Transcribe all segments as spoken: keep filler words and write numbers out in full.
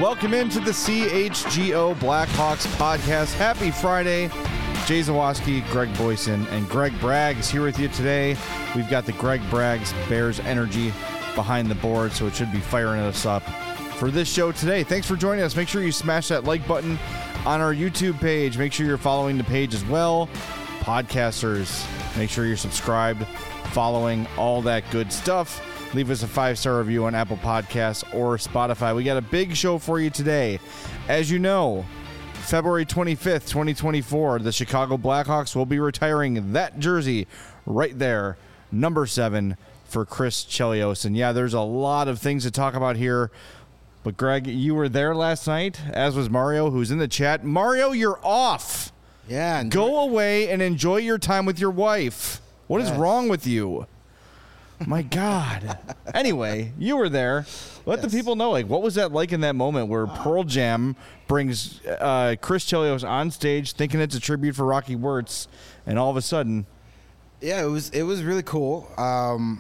Welcome into the C H G O Blackhawks podcast. Happy Friday. Jay Zawoski, Greg Boyson, and Greg Bragg is here with you today. We've got the Greg Bragg's Bears Energy behind the board, so it should be firing us up for this show today. Thanks for joining us. Make sure you smash that like button on our YouTube page. Make sure you're following the page as well. Podcasters, make sure you're subscribed, following, all that good stuff. Leave us a five-star review on Apple Podcasts or Spotify. We got a big show for you today. As you know, February twenty-fifth, twenty twenty-four, the Chicago Blackhawks will be retiring that jersey right there, number seven, for Chris Chelios. And yeah, there's a lot of things to talk about here. But Greg, you were there last night, as was Mario, who's in the chat. Mario, you're off. Yeah. Go away and enjoy your time with your wife. What yes. is wrong with you? My God. Anyway, you were there. Let yes. the people know, like, what was that like in that moment where Pearl Jam brings uh, Chris Chelios on stage thinking it's a tribute for Rocky Wirtz, and all of a sudden... Yeah, it was it was really cool. Um,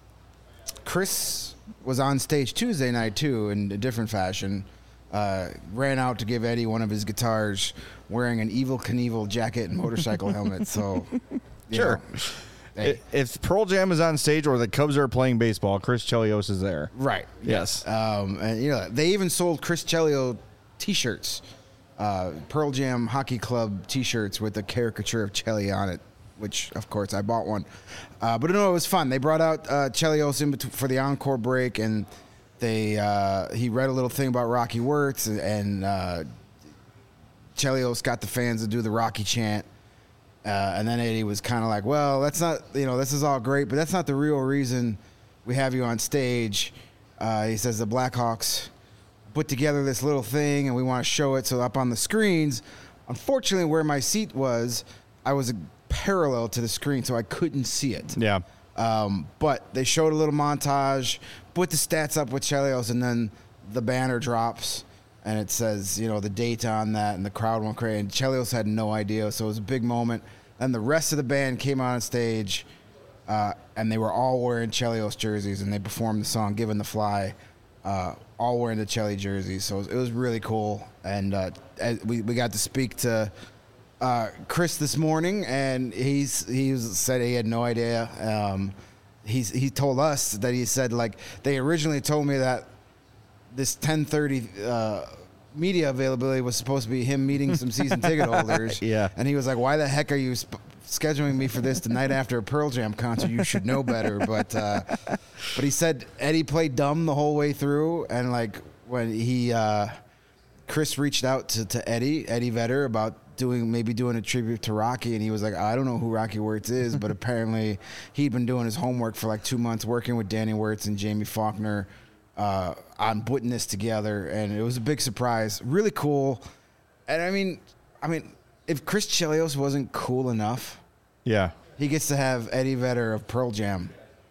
Chris was on stage Tuesday night, too, in a different fashion. Uh, ran out to give Eddie one of his guitars wearing an Evel Knievel jacket and motorcycle helmet. So, sure. Know, hey. If Pearl Jam is on stage or the Cubs are playing baseball, Chris Chelios is there. Right. Yes. Um, and you know, they even sold Chris Chelios T-shirts, uh, Pearl Jam Hockey Club T-shirts with a caricature of Chelly on it, which of course I bought one. Uh, but no, it was fun. They brought out uh, Chelios in between for the encore break, and they uh, he read a little thing about Rocky Wirtz, and, and uh, Chelios got the fans to do the Rocky chant. Uh, and then Eddie was kind of like, well, that's not, you know, this is all great, but that's not the real reason we have you on stage. Uh, he says the Blackhawks put together this little thing, and we want to show it so up on the screens. Unfortunately, where my seat was, I was parallel to the screen, so I couldn't see it. Yeah. Um, but they showed a little montage, put the stats up with Chelios, and then the banner drops. And it says, you know, the date on that, and the crowd went crazy. And Chelios had no idea, so it was a big moment. And the rest of the band came on stage, uh, and they were all wearing Chelios jerseys, and they performed the song "Given the Fly," uh, all wearing the Chelly jerseys. So it was, it was really cool. And uh, we we got to speak to uh, Chris this morning, and he's he was, said he had no idea. Um, he's he told us that he said, like, they originally told me that this ten thirty uh, media availability was supposed to be him meeting some season ticket holders. Yeah. And he was like, why the heck are you sp- scheduling me for this the night after a Pearl Jam concert? You should know better. But uh, but he said Eddie played dumb the whole way through. And, like, when he uh, Chris reached out to, to Eddie, Eddie Vedder, about doing maybe doing a tribute to Rocky. And he was like, I don't know who Rocky Wirtz is. But apparently he'd been doing his homework for, like, two months, working with Danny Wirtz and Jamie Faulkner Uh, on putting this together, and it was a big surprise. Really cool. And I mean, I mean, if Chris Chelios wasn't cool enough, yeah, he gets to have Eddie Vedder of Pearl Jam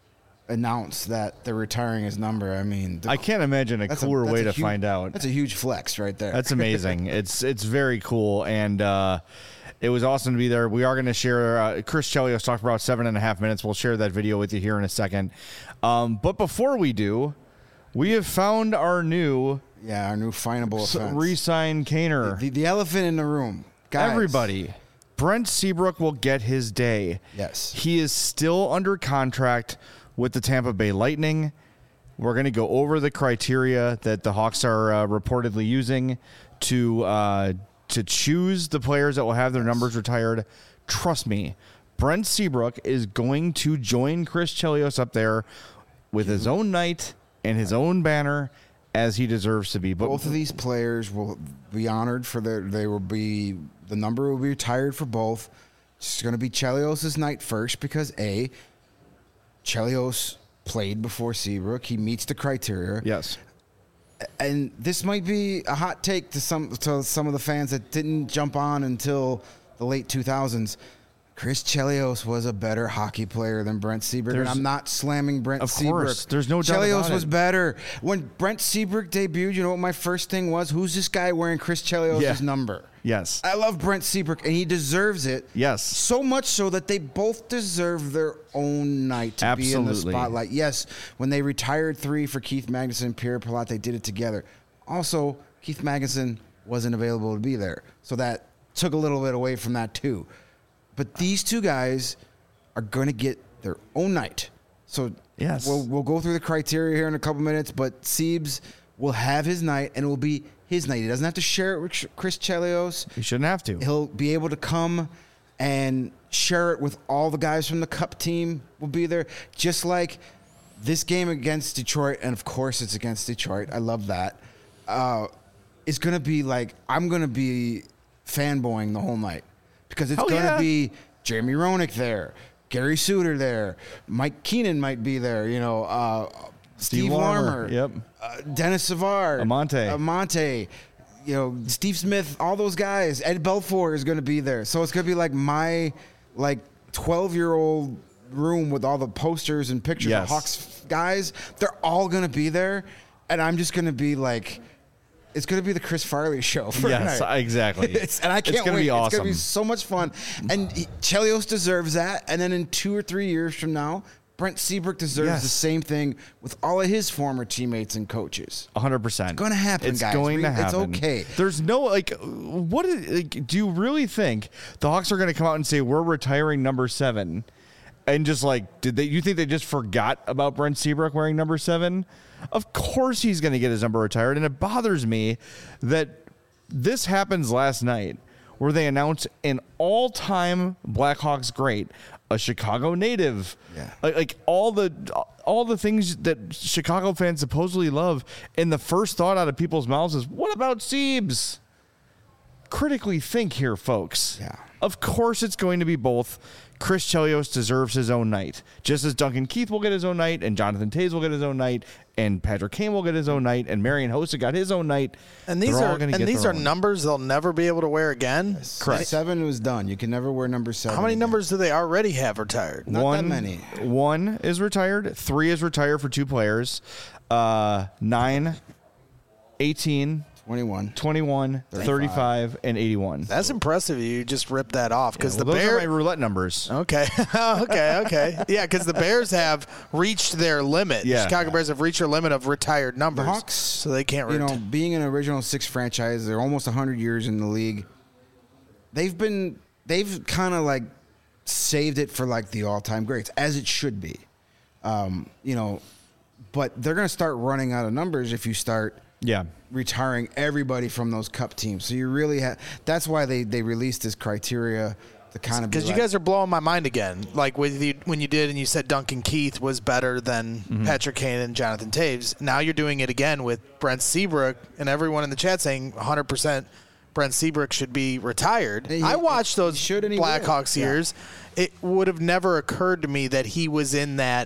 announce that they're retiring his number. I mean, the, I can't imagine a cooler a, way to huge, find out. That's a huge flex right there. That's amazing. it's it's very cool, and uh, it was awesome to be there. We are going to share. Uh, Chris Chelios talked for about seven and a half minutes. We'll share that video with you here in a second. Um, but before we do, we have found our new yeah, our new finable offense. Re-sign Kaner. The, the, the elephant in the room. Guys. Everybody. Brent Seabrook will get his day. Yes. He is still under contract with the Tampa Bay Lightning. We're going to go over the criteria that the Hawks are uh, reportedly using to uh, to choose the players that will have their numbers retired. Trust me, Brent Seabrook is going to join Chris Chelios up there with his own night and his own banner, as he deserves to be. But both of these players will be honored for their. They will be the number will be retired for both. It's going to be Chelios' night first because a Chelios played before Seabrook. He meets the criteria. Yes, and this might be a hot take to some to some of the fans that didn't jump on until the late two thousands. Chris Chelios was a better hockey player than Brent Seabrook, and I'm not slamming Brent of Seabrook. Course, there's no doubt Chelios about was it. better. When Brent Seabrook debuted, you know what my first thing was? Who's this guy wearing Chris Chelios' Yeah. number? Yes. I love Brent Seabrook, and he deserves it. Yes. So much so that they both deserve their own night to be in the Absolutely. spotlight. Yes, when they retired three for Keith Magnuson and Pierre Palat, they did it together. Also, Keith Magnuson wasn't available to be there. So that took a little bit away from that too. But these two guys are going to get their own night. So yes. we'll, we'll go through the criteria here in a couple minutes, but Siebes will have his night, and it will be his night. He doesn't have to share it with Chris Chelios. He shouldn't have to. He'll be able to come and share it with all the guys from the Cup team will be there, just like this game against Detroit, and of course it's against Detroit. I love that. Uh, it's going to be like, I'm going to be fanboying the whole night because it's oh, going to yeah. be Jeremy Roenick there, Gary Suter there, Mike Keenan might be there, you know, uh, Steve, Steve Larmer, Yep. uh, Dennis Savard, Amante. Amante, you know, Steve Smith, all those guys. Ed Belfour is going to be there. So it's going to be like my like twelve-year-old room with all the posters and pictures yes. of Hawks guys. They're all going to be there, and I'm just going to be like, it's going to be the Chris Farley show for yes, tonight. exactly. It's, and I can't it's gonna wait. Be awesome. It's going to be so much fun. And he, Chelios deserves that. And then in two or three years from now, Brent Seabrook deserves yes. the same thing with all of his former teammates and coaches. one hundred percent. It's going to happen, it's guys. going We, to happen. It's okay. There's no, like, what is, like, do you really think the Hawks are going to come out and say, we're retiring number seven? And just like, did they, you think they just forgot about Brent Seabrook wearing number seven? Of course he's going to get his number retired. And it bothers me that this happens last night where they announce an all-time Blackhawks great, a Chicago native, yeah. like, like all the all the things that Chicago fans supposedly love, and the first thought out of people's mouths is, what about Siebes? Critically think here, folks. Yeah. Of course it's going to be both. Chris Chelios deserves his own night, just as Duncan Keith will get his own night, and Jonathan Toews will get his own night, and Patrick Kane will get his own night, and Marian Hossa got his own night. And these They're all are gonna and get these their are own. numbers they'll never be able to wear again. Correct. Seven was done. You can never wear number seven. How many again. numbers do they already have retired? Not one, that many. One is retired. Three is retired for two players. Uh, nine, eighteen, twenty-one. twenty-one, thirty-five, and eighty-one. That's impressive. You just ripped that off because Well, the those Bears. are my roulette numbers. Okay, okay, okay. Yeah, because the Bears have reached their limit. Yeah. The Chicago Bears have reached their limit of retired numbers. The Hawks, so they can't. You Ret- know, being an original six franchise, they're almost one hundred years in the league. They've been, they've kind of like saved it for like the all-time greats, as it should be. Um, you know, but they're going to start running out of numbers if you start Yeah. retiring everybody from those Cup teams. So you really have. That's why they they released this criteria to kind of be Because you like, guys are blowing my mind again. Like with you, when you did and you said Duncan Keith was better than Mm-hmm. Patrick Kane and Jonathan Toews. Now you're doing it again with Brent Seabrook and everyone in the chat saying one hundred percent Brent Seabrook should be retired. He- I watched those he should and he will. Blackhawks Yeah. years. It would have never occurred to me that he was in that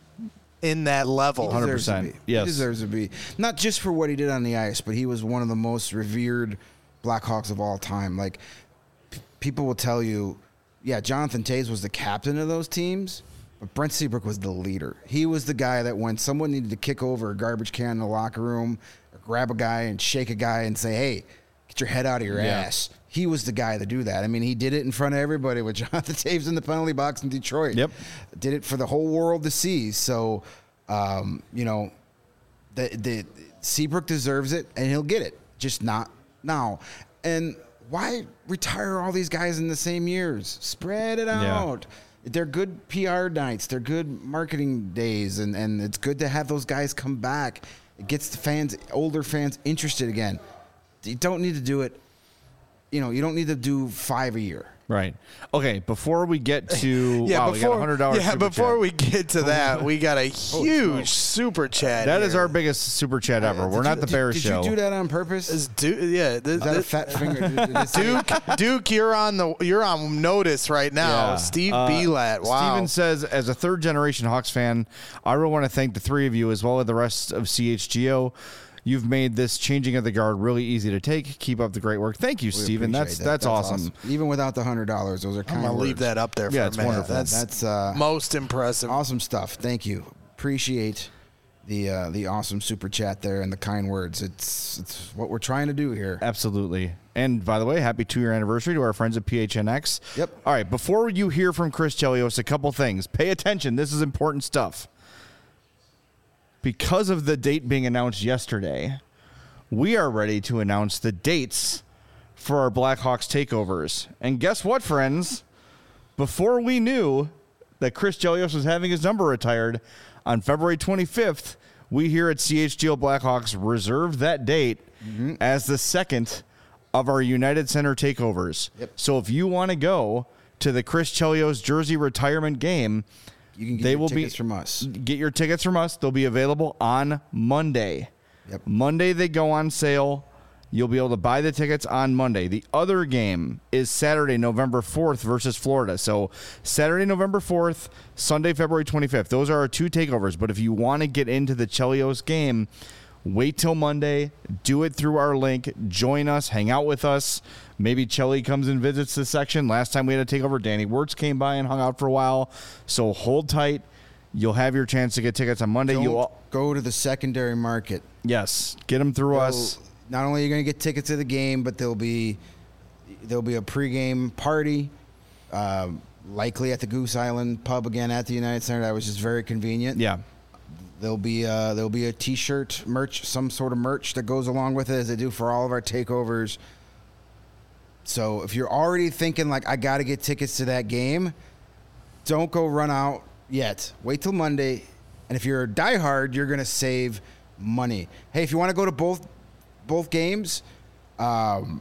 in that level. one hundred deserves to percent. be. Yes. He deserves to be. Not just for what he did on the ice, but he was one of the most revered Blackhawks of all time. Like, p- people will tell you, yeah, Jonathan Toews was the captain of those teams, but Brent Seabrook was the leader. He was the guy that when someone needed to kick over a garbage can in the locker room, or grab a guy and shake a guy and say, hey, get your head out of your Yeah. ass. He was the guy to do that. I mean, he did it in front of everybody with Jonathan Toews in the penalty box in Detroit. Yep. Did it for the whole world to see. So, um, you know, the, the Seabrook deserves it, and he'll get it. Just not now. And why retire all these guys in the same years? Spread it Yeah. out. They're good P R nights. They're good marketing days, and, and it's good to have those guys come back. It gets the fans, older fans, interested again. You don't need to do it. You know, you don't need to do five a year. Right. Okay. Before we get to Yeah, wow, before, we got a hundred dollars. yeah, before we get to that, we got a huge super chat. That is here. our biggest super chat ever. Did We're not you- the did- Bears did show. you do that on purpose? Is Duke, yeah, th- Is that a th- fat finger? Did- did it say- Duke, Duke, you're on the you're on notice right now. Yeah. Steve Uh, Belat, wow. Steven says, as a third generation Hawks fan, I really want to thank the three of you as well as the rest of C H G O. You've made this changing of the guard really easy to take. Keep up the great work. Thank you, We Steven. appreciate That's, that. that's awesome. Even without the hundred dollars, those are I'm kind gonna of leave that up there for Yeah, a it's minute. wonderful. That's, That's uh, most impressive. awesome stuff. Thank you. Appreciate the uh, the awesome super chat there and the kind words. It's it's what we're trying to do here. Absolutely. And by the way, happy two-year anniversary to our friends at P H N X. Yep. All right, before you hear from Chris Chelios, a couple things. Pay attention. This is important stuff. Because of the date being announced yesterday, we are ready to announce the dates for our Blackhawks takeovers. And guess what, friends? Before we knew that Chris Chelios was having his number retired on February twenty-fifth, we here at C H G O Blackhawks reserved that date mm-hmm. as the second of our United Center takeovers. Yep. So if you want to go to the Chris Chelios jersey retirement game, you can get they your will tickets be, from us. Get your tickets from us. They'll be available on Monday. Yep. Monday they go on sale. You'll be able to buy the tickets on Monday. The other game is Saturday, November fourth versus Florida. So Saturday, November fourth, Sunday, February twenty-fifth. Those are our two takeovers. But if you want to get into the Chelios game, wait till Monday. Do it through our link. Join us. Hang out with us. Maybe Chelly comes and visits the section. Last time we had a takeover, Danny Wirtz came by and hung out for a while. So hold tight. You'll have your chance to get tickets on Monday. Don't You'll go to the secondary market. Yes, get them through Go, us. Not only are you going to get tickets to the game, but there'll be there'll be a pregame party, uh, likely at the Goose Island pub again at the United Center. That was just very convenient. Yeah. There'll be uh, there'll be a T-shirt merch, some sort of merch that goes along with it, as they do for all of our takeovers. So if you're already thinking like I got to get tickets to that game, don't go run out yet. Wait till Monday, and if you're a diehard, you're gonna save money. Hey, if you want to go to both both games, um,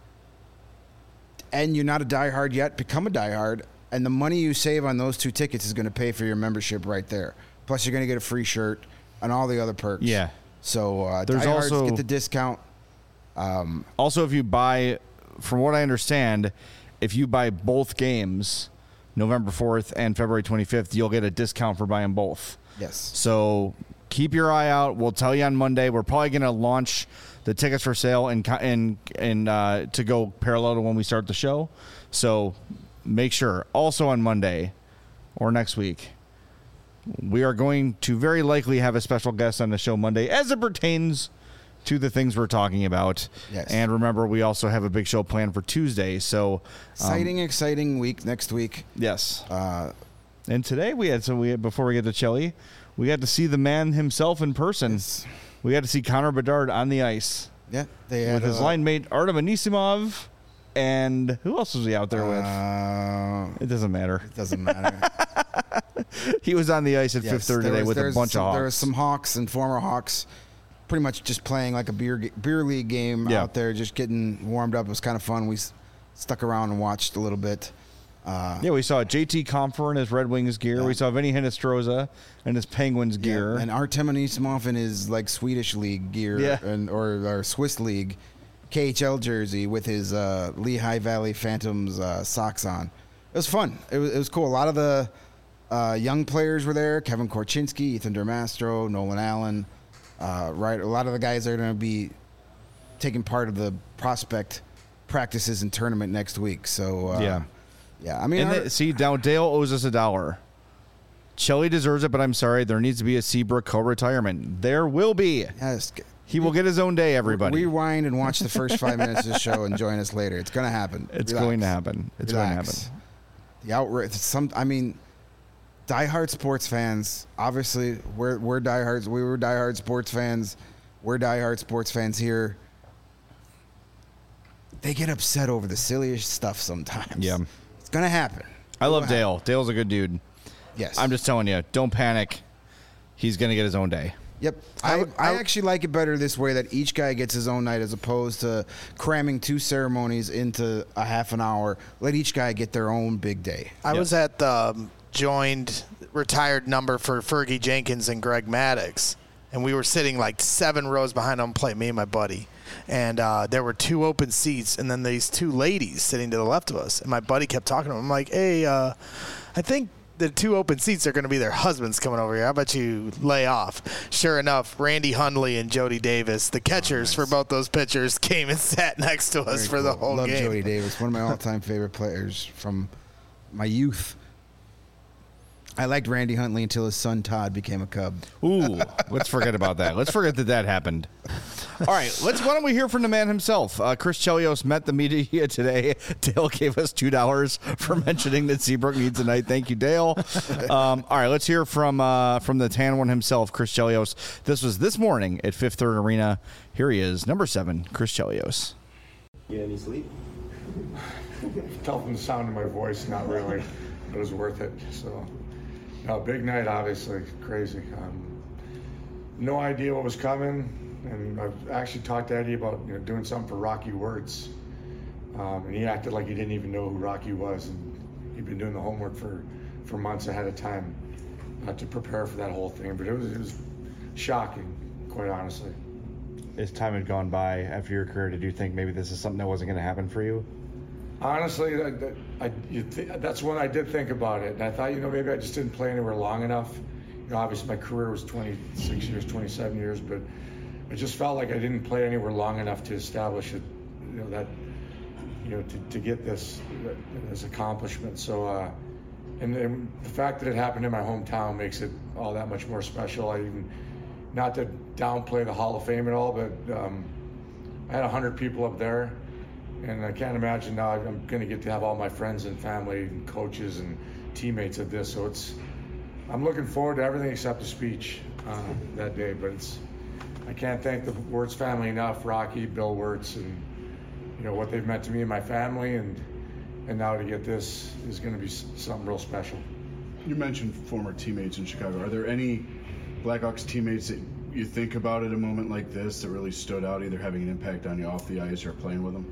and you're not a diehard yet, become a diehard, and the money you save on those two tickets is going to pay for your membership right there. Plus, you're going to get a free shirt and all the other perks. Yeah. So uh, There's diehards also get the discount. Um, also, if you buy, from what I understand, if you buy both games, November fourth and February twenty-fifth, you'll get a discount for buying both. yes. So keep your eye out. We'll tell you on Monday. We're probably going to launch the tickets for sale and and and uh, to go parallel to when we start the show. So make sure. Also on Monday or next week, we are going to very likely have a special guest on the show Monday as it pertains to the things we're talking about. Yes. And remember, we also have a big show planned for Tuesday. So um, Exciting, exciting week next week. yes. Uh, And today we had so we had, before we get to Chelly, we got to see the man himself in person. Yes. We got to see Connor Bedard on the ice yeah, they had with his uh, line mate Artem Anisimov, and who else was he out there with? Uh, It doesn't matter. it doesn't matter. He was on the ice at Yes, Fifth Third there today was- with a there's bunch some, of Hawks. There was some Hawks and former Hawks, pretty much just playing like a beer ga- beer league game Yeah. out there, just getting warmed up. It was kind of fun. We s- stuck around and watched a little bit. Uh, Yeah, we saw J T Compher in his Red Wings gear. Yeah. We saw Vinny Hinostroza in his Penguins yeah, gear. and Artem Anisimov in his like Swedish league gear, Yeah. and or, or Swiss league K H L jersey with his uh, Lehigh Valley Phantoms uh, socks on. It was fun. It was, it was cool. A lot of the uh, young players were there: Kevin Korchinski, Ethan Dermastro, Nolan Allen. Uh, right, a lot of the guys are going to be taking part of the prospect practices and tournament next week. So uh, Yeah. yeah. I mean, And our- the, see, now Dale owes us a dollar. Chelly deserves it, but I'm sorry. There needs to be a Seabrook co-retirement. There will be. yes, He will get his own day, everybody. rewind and watch the first five minutes of the show and join us later. It's going to happen. It's Relax. going to happen. It's Relax. going to happen. The outright, some, I mean, diehard sports fans. Obviously, we're we're diehards. We were diehard sports fans. We're diehard sports fans here. They get upset over the silliest stuff sometimes. Yeah. It's gonna happen. I love It'll happen. Dale. Dale's a good dude. Yes, I'm just telling you, don't panic. He's going to get his own day. Yep. I I, would- I, I would- actually like it better this way, that each guy gets his own night as opposed to cramming two ceremonies into a half an hour. Let each guy get their own big day. I Yes. was at the um, joined retired number for Fergie Jenkins and Greg Maddox, and we were sitting like seven rows behind home plate, me and my buddy. And uh, there were two open seats, and then these two ladies sitting to the left of us. And my buddy kept talking to him. I'm like, hey, uh, I think the two open seats are going to be their husbands coming over here. How about you lay off? Sure enough, Randy Hundley and Jody Davis, the catchers for both those pitchers, came and sat next to us Very for the cool. whole Love game. Jody Davis, one of my all-time favorite players from my youth. I liked Randy Huntley until his son Todd became a Cub. Ooh, let's forget about that. Let's forget that that happened. All right, let's. Why don't we hear from the man himself? Uh, Chris Chelios met the media today. Dale gave us two dollars for mentioning that Seabrook needs a night. Thank you, Dale. Um, all right, let's hear from uh, from the tan one himself, Chris Chelios. This was this morning at Fifth Third Arena. Here he is, number seven, Chris Chelios. You get any sleep? Tell from the sound of my voice, not really. It was worth it. So, no, big night, obviously, crazy. Um, no idea what was coming, and I've actually talked to Eddie about you know doing something for Rocky Wirtz, um, and he acted like he didn't even know who Rocky was, and he'd been doing the homework for, for months ahead of time uh, to prepare for that whole thing. But it was it was shocking, quite honestly. As time had gone by after your career, did you think maybe this is something that wasn't going to happen for you? Honestly, I, I, you th- that's when I did think about it. And I thought, you know, maybe I just didn't play anywhere long enough. You know, obviously my career was twenty-six years, twenty-seven years, but I just felt like I didn't play anywhere long enough to establish it, you know, that, you know, to, to get this, this accomplishment. So, uh, and, and the fact that it happened in my hometown makes it all that much more special. I even, not to downplay the Hall of Fame at all, but um, I had one hundred people up there. And I can't imagine now I'm going to get to have all my friends and family and coaches and teammates at this. So it's, I'm looking forward to everything except the speech uh, that day. But it's, I can't thank the Wirtz family enough, Rocky, Bill Wirtz, and you know what they've meant to me and my family. And and now to get this is going to be something real special. You mentioned former teammates in Chicago. Are there any Blackhawks teammates that you think about at a moment like this that really stood out, either having an impact on you off the ice or playing with them?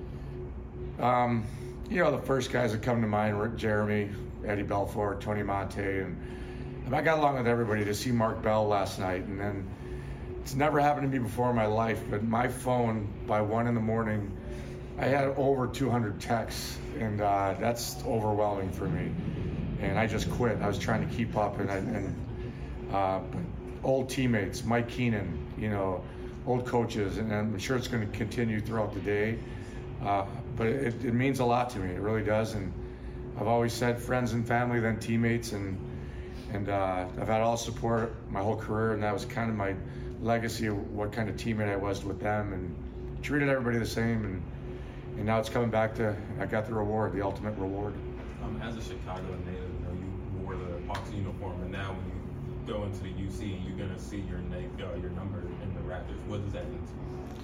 Um, you know, the first guys that come to mind were Jeremy, Eddie Belfour, Tony Monte, and, and I got along with everybody. To see Mark Bell last night, and then it's never happened to me before in my life, but my phone by one in the morning, I had over two hundred texts, and uh, that's overwhelming for me. And I just quit. I was trying to keep up, and I, and uh, but old teammates, Mike Keenan, you know, old coaches, and I'm sure it's going to continue throughout the day. Uh, but it, it means a lot to me. It really does. And I've always said friends and family, then teammates, and and uh, I've had all support my whole career, and that was kind of my legacy of what kind of teammate I was with them, and treated everybody the same. And and now it's coming back to I got the reward, the ultimate reward. Um, as a Chicago native, you know you wore the Hawks uniform, and now when you go into the U C and you're gonna see your name, uh, your number in the Raptors, what does that mean to you?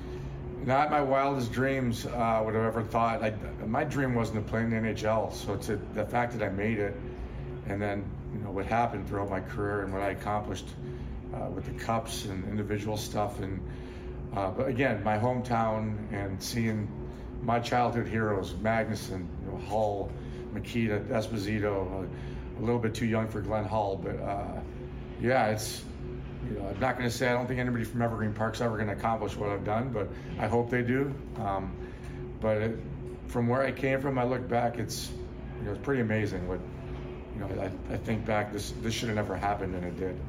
Not my wildest dreams uh, would have ever thought. I, my dream wasn't to play in the N H L. So to the fact that I made it, and then you know what happened throughout my career and what I accomplished uh, with the cups and individual stuff, and uh, but again, my hometown and seeing my childhood heroes, Magnuson, you know, Hull, Makita, Esposito, uh, a little bit too young for Glenn Hull, but uh, yeah, it's. You know, I'm not going to say I don't think anybody from Evergreen Park's ever going to accomplish what I've done, but I hope they do. Um, but it, from where I came from, I look back, it's you know it's pretty amazing. What you know, I, I think back, this this should have never happened, and it did.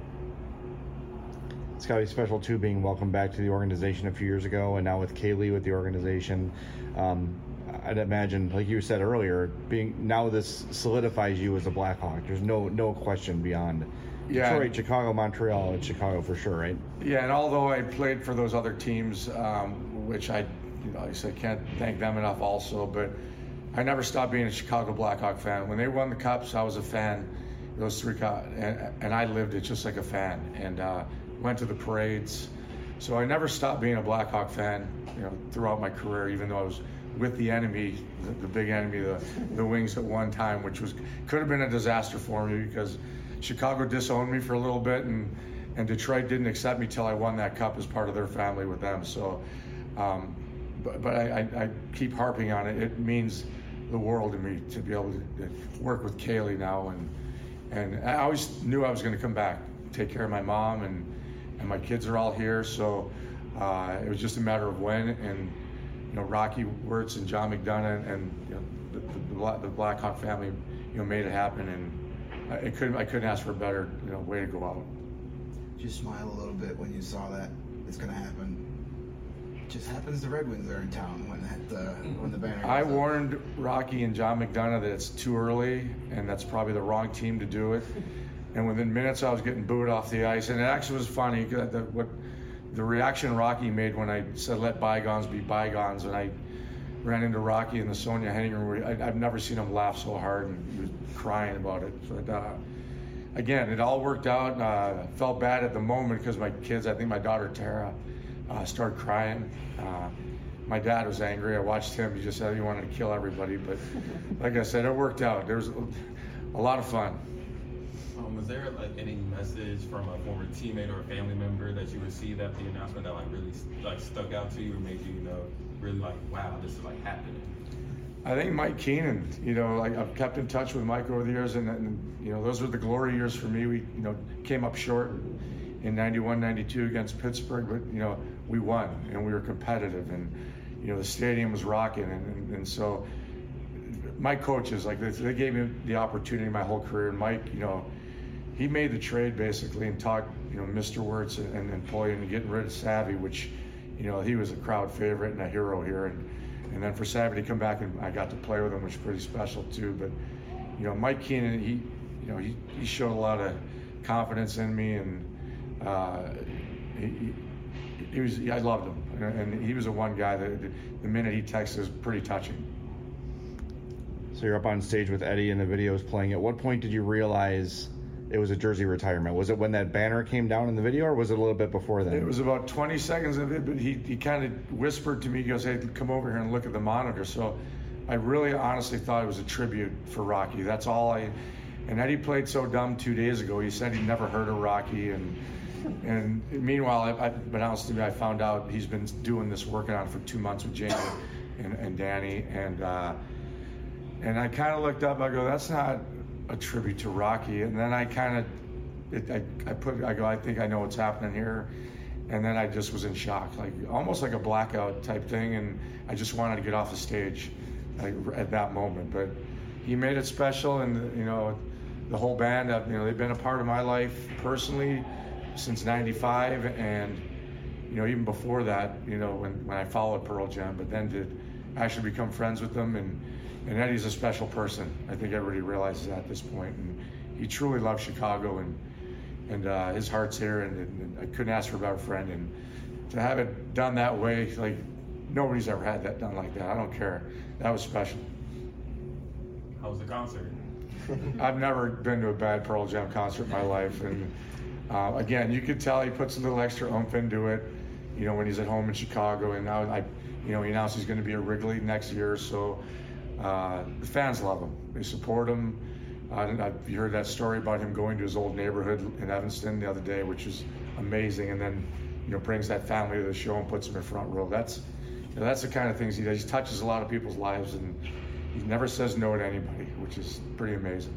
It's got to be special too, being welcomed back to the organization a few years ago, and now with Kaylee with the organization. Um, I'd imagine, like you said earlier, being now this solidifies you as a Blackhawk. There's no no question beyond. Yeah. Detroit, Chicago, Montreal, and Chicago for sure, right? Yeah, and although I played for those other teams, um, which I, you know, I said can't thank them enough also, but I never stopped being a Chicago Blackhawk fan. When they won the Cups, I was a fan. Those three, and, and I lived it just like a fan, and uh, went to the parades. So I never stopped being a Blackhawk fan, you know, throughout my career, even though I was with the enemy, the, the big enemy, the the Wings at one time, which was could have been a disaster for me because Chicago disowned me for a little bit, and, and Detroit didn't accept me till I won that cup as part of their family with them. So, um, but, but I, I, I keep harping on it. It means the world to me to be able to work with Kaylee now, and and I always knew I was going to come back, take care of my mom, and and my kids are all here. So uh, it was just a matter of when. And you know, Rocky Wirtz and John McDonough and you know, the, the, the Blackhawk family, you know, made it happen, and. I couldn't. I couldn't ask for a better, you know, way to go out. Did you smile a little bit when you saw that it's going to happen? It just happens the Red Wings are in town when that uh, when the banner. I goes warned up. Rocky and John McDonough that it's too early, and that's probably the wrong team to do it. And within minutes, I was getting booed off the ice, and it actually was funny. The, what the reaction Rocky made when I said let bygones be bygones, and I ran into Rocky in the Sonia hangar room, I, I've never seen him laugh so hard, and he was crying about it. But uh, again, it all worked out. Uh, felt bad at the moment because my kids, I think my daughter Tara, uh, started crying. Uh, my dad was angry. I watched him. He just said he wanted to kill everybody. But like I said, it worked out. There was a lot of fun. Um, was there like any message from a former teammate or a family member that you received after the announcement that like really like stuck out to you or made you, you know, really like, wow, this is like happening? I think Mike Keenan, you know, like I've kept in touch with Mike over the years, and, and you know, those were the glory years for me. We, you know, came up short in ninety-one, ninety-two against Pittsburgh, but you know, we won and we were competitive, and you know, the stadium was rocking, and, and, and so my coaches, like they, they gave me the opportunity my whole career. And Mike, you know, he made the trade basically and talked, you know, Mister Wirtz and, and, and Poyen and getting rid of Savvy, which, you know, he was a crowd favorite and a hero here. And, and then for Savvy to come back and I got to play with him, which was pretty special too. But, you know, Mike Keenan, he, you know, he, he showed a lot of confidence in me, and uh, he, he was, I loved him. And he was the one guy that the minute he texted was pretty touching. So you're up on stage with Eddie and the video's playing. At what point did you realize it was a jersey retirement? Was it when that banner came down in the video, or was it a little bit before then? It was about twenty seconds of it, but he, he kind of whispered to me, he goes, hey, come over here and look at the monitor. So I really honestly thought it was a tribute for Rocky. That's all I, and Eddie played so dumb two days ago. He said he'd never heard of Rocky, and and meanwhile, I, I, but honestly, I found out he's been doing this, working on it for two months with Jamie and, and Danny, and uh, and I kind of looked up, I go, that's not a tribute to Rocky. And then I kind of, I, I put, I go, I think I know what's happening here. And then I just was in shock, like almost like a blackout type thing. And I just wanted to get off the stage like, at that moment. But he made it special, and you know, the whole band, you know, they've been a part of my life personally since ninety-five, and you know, even before that, you know, when, when I followed Pearl Jam, but then to actually become friends with them. And And Eddie's a special person. I think everybody realizes that at this point. And he truly loves Chicago, and and uh, his heart's here. And, and I couldn't ask for a better friend. And to have it done that way, like nobody's ever had that done like that. I don't care. That was special. How was the concert? I've never been to a bad Pearl Jam concert in my life. And uh, again, you could tell he puts a little extra oomph into it, you know, when he's at home in Chicago. And now, I, you know, he announced he's going to be at Wrigley next year. So. Uh, the fans love him. They support him. Uh, I've heard that story about him going to his old neighborhood in Evanston the other day, which is amazing. And then, you know, brings that family to the show and puts them in front row. That's, you know, that's the kind of things he does. He touches a lot of people's lives, and he never says no to anybody, which is pretty amazing.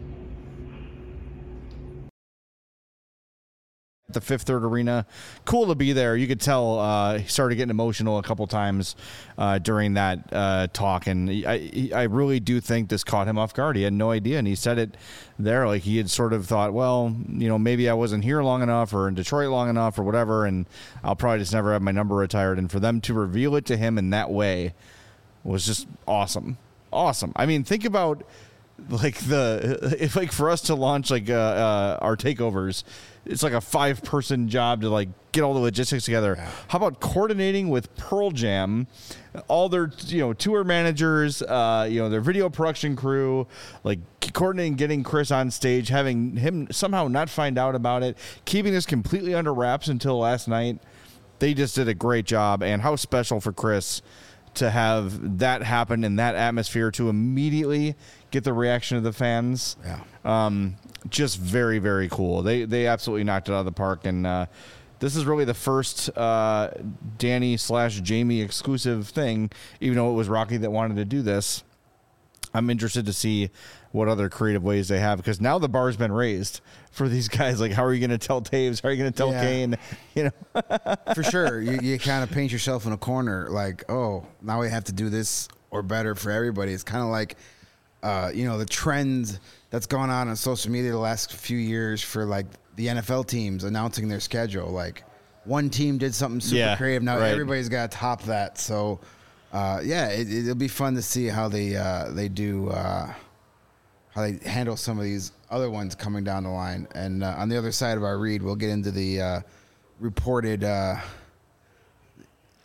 The Fifth Third Arena, cool to be there. You could tell uh, he started getting emotional a couple times uh, during that uh, talk, and I, I really do think this caught him off guard. He had no idea, and he said it there, like he had sort of thought, well, you know, maybe I wasn't here long enough or in Detroit long enough or whatever, and I'll probably just never have my number retired. And for them to reveal it to him in that way was just awesome. Awesome. I mean, think about like the if like for us to launch like uh, uh, our takeovers, it's like a five person job to like get all the logistics together. Yeah. How about coordinating with Pearl Jam, all their, you know, tour managers, uh, you know, their video production crew, like coordinating, getting Chris on stage, having him somehow not find out about it, keeping this completely under wraps until last night. They just did a great job, and how special for Chris to have that happen in that atmosphere, to immediately get the reaction of the fans. Yeah. Um, just very, very cool. They they absolutely knocked it out of the park, and uh, this is really the first uh, Danny slash Jamie exclusive thing, even though it was Rocky that wanted to do this. I'm interested to see what other creative ways they have, because now the bar's been raised for these guys. Like, how are you going to tell Taves? How are you going to tell Yeah. Kane? You know, For sure. You, you kind of paint yourself in a corner like, oh, now we have to do this or better for everybody. It's kind of like, uh, you know, the trend that's gone on on social media the last few years for like the N F L teams announcing their schedule. Like one team did something super Yeah, creative. Now right. everybody's got to top that. So, uh, yeah, it, it'll be fun to see how they uh, they do uh, how they handle some of these other ones coming down the line. And uh, on the other side of our read, we'll get into the uh, reported uh,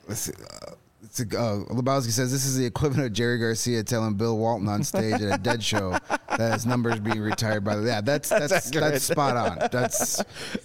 let's see. Uh, it's a, uh, Lebowski says this is the equivalent of Jerry Garcia telling Bill Walton on stage at a Dead show that his number's being retired by the. Yeah, that's that's that's, that's spot on. That's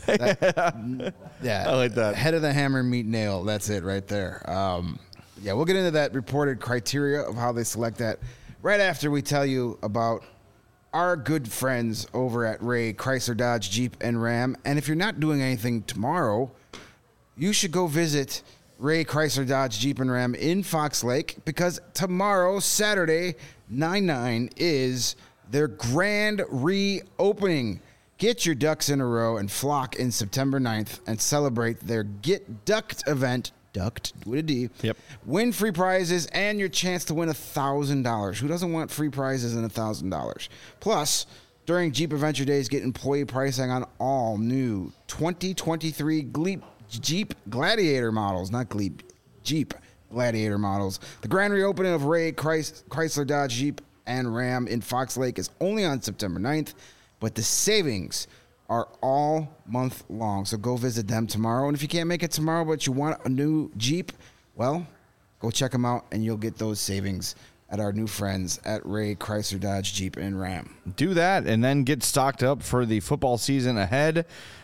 that, yeah. I like that. Head of the hammer, meet nail. That's it right there. Um, yeah, we'll get into that reported criteria of how they select that right after we tell you about our good friends over at Ray Chrysler Dodge Jeep and Ram. And if you're not doing anything tomorrow, you should go visit Ray Chrysler Dodge Jeep and Ram in Fox Lake, because tomorrow, Saturday, nine nine, is their grand reopening. Get your ducks in a row and flock in September ninth and celebrate their Get Ducked event. Ducked with a D. Yep. Win free prizes and your chance to win one thousand dollars. Who doesn't want free prizes and one thousand dollars? Plus, during Jeep Adventure Days, get employee pricing on all new twenty twenty-three Gleep Jeep Gladiator models, not Gleep, Jeep Gladiator models. The grand reopening of Ray Chrysler Dodge Jeep and Ram in Fox Lake is only on September ninth, but the savings are all month long. So go visit them tomorrow. And if you can't make it tomorrow, but you want a new Jeep, well, go check them out and you'll get those savings at our new friends at Ray Chrysler Dodge Jeep and Ram. Do that and then get stocked up for the football season ahead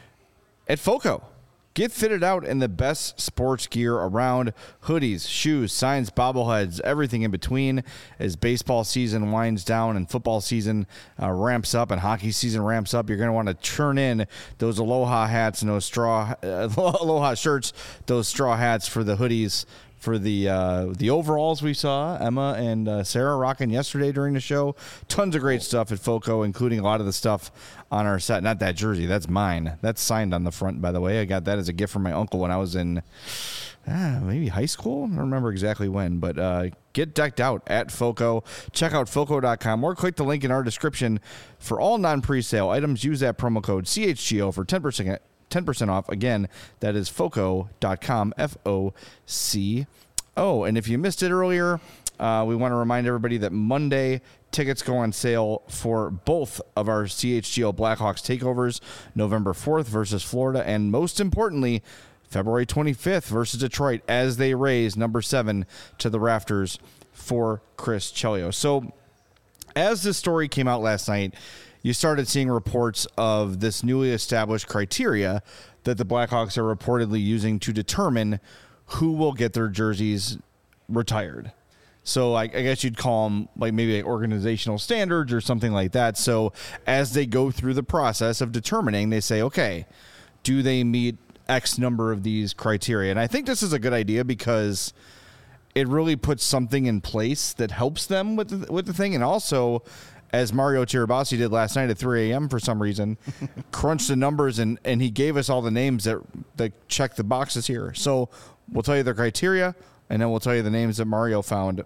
at FOCO. Get fitted out in the best sports gear around. Hoodies, shoes, signs, bobbleheads, everything in between. As baseball season winds down and football season uh, ramps up and hockey season ramps up, you're going to want to turn in those Aloha hats and those straw uh, Aloha shirts, those straw hats for the hoodies, for the uh, the overalls we saw Emma and uh, Sarah rocking yesterday during the show. Tons of great stuff at FOCO, including a lot of the stuff on our set. Not that jersey, that's mine. That's signed on the front, by the way. I got that as a gift from my uncle when I was in ah, maybe high school. I don't remember exactly when, but uh, get decked out at FOCO. Check out foco dot com or click the link in our description for all non-presale items. Use that promo code C H G O for ten percent ten percent off. Again, that is foco dot com, F O C O. And if you missed it earlier, uh, we want to remind everybody that Monday tickets go on sale for both of our C H G O Blackhawks takeovers, November fourth versus Florida, and most importantly, February twenty-fifth versus Detroit, as they raise number seven to the rafters for Chris Chelios. So as this story came out last night, you started seeing reports of this newly established criteria that the Blackhawks are reportedly using to determine who will get their jerseys retired. So I, I guess you'd call them like maybe like organizational standards or something like that. So as they go through the process of determining, they say, okay, do they meet X number of these criteria? And I think this is a good idea because it really puts something in place that helps them with the, with the thing. And also, as Mario Tirabassi did last night at three a.m. for some reason, crunched the numbers, and, and he gave us all the names that, that check the boxes here. So we'll tell you the criteria, and then we'll tell you the names that Mario found.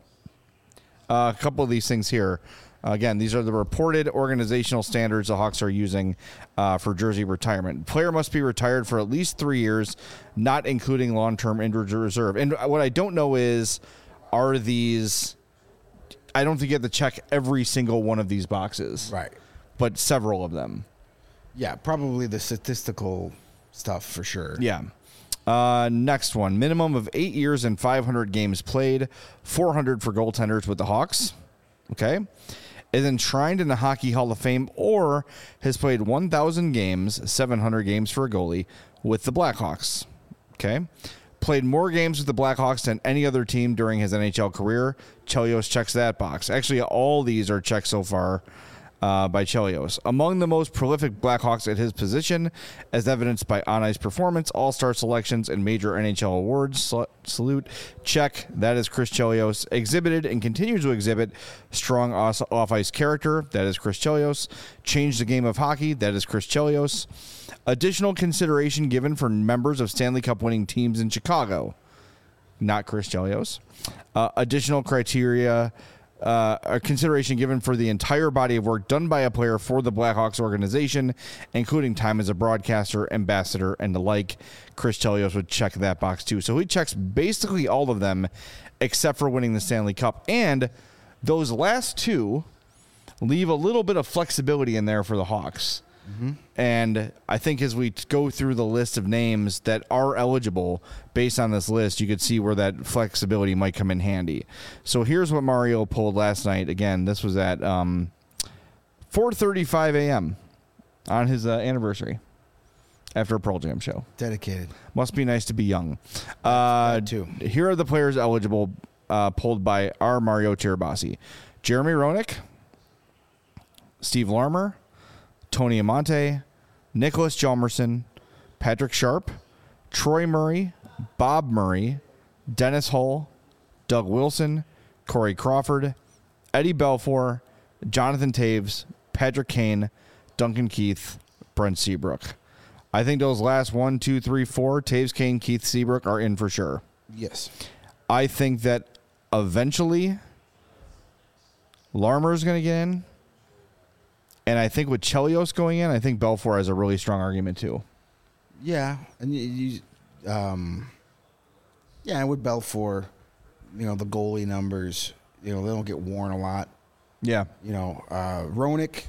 Uh, a couple of these things here. Uh, again, these are the reported organizational standards the Hawks are using uh, for jersey retirement. Player must be retired for at least three years, not including long-term injured reserve. And what I don't know is, are these... I don't think you have to check every single one of these boxes. Right. But several of them. Yeah, probably the statistical stuff for sure. Yeah. Uh, next one. Minimum of eight years and five hundred games played. four hundred for goaltenders with the Hawks. Okay. Is enshrined in the Hockey Hall of Fame or has played one thousand games, seven hundred games for a goalie with the Blackhawks. Okay. Played more games with the Blackhawks than any other team during his N H L career. Chelios checks that box. Actually, all these are checked so far uh, by Chelios. Among the most prolific Blackhawks at his position, as evidenced by on-ice performance, all-star selections, and major N H L awards. Sal- salute. Check. That is Chris Chelios. Exhibited and continues to exhibit strong off-ice character. That is Chris Chelios. Changed the game of hockey. That is Chris Chelios. Additional consideration given for members of Stanley Cup winning teams in Chicago. Not Chris Chelios. Uh, additional criteria, uh, a consideration given for the entire body of work done by a player for the Blackhawks organization, including time as a broadcaster, ambassador, and the like. Chris Chelios would check that box too. So he checks basically all of them except for winning the Stanley Cup. And those last two leave a little bit of flexibility in there for the Hawks. Mm-hmm. And I think as we go through the list of names that are eligible based on this list, you could see where that flexibility might come in handy. So here's what Mario pulled last night. Again, this was at um, four thirty-five a.m. on his uh, anniversary after a Pearl Jam show. Dedicated. Must be nice to be young. Uh, too. Here are the players eligible, uh, pulled by our Mario Tirabassi. Jeremy Roenick, Steve Larmer, Tony Amonte, Nicholas Hjalmarsson, Patrick Sharp, Troy Murray, Bob Murray, Dennis Hull, Doug Wilson, Corey Crawford, Eddie Belfour, Jonathan Taves, Patrick Kane, Duncan Keith, Brent Seabrook. I think those last one, two, three, four, Taves, Kane, Keith, Seabrook are in for sure. Yes. I think that eventually Larmer's going to get in. And I think with Chelios going in, I think Belfour has a really strong argument too. Yeah, and you, you um, yeah, with Belfour, you know, the goalie numbers, you know, they don't get worn a lot. Yeah. You know, uh, Roenick,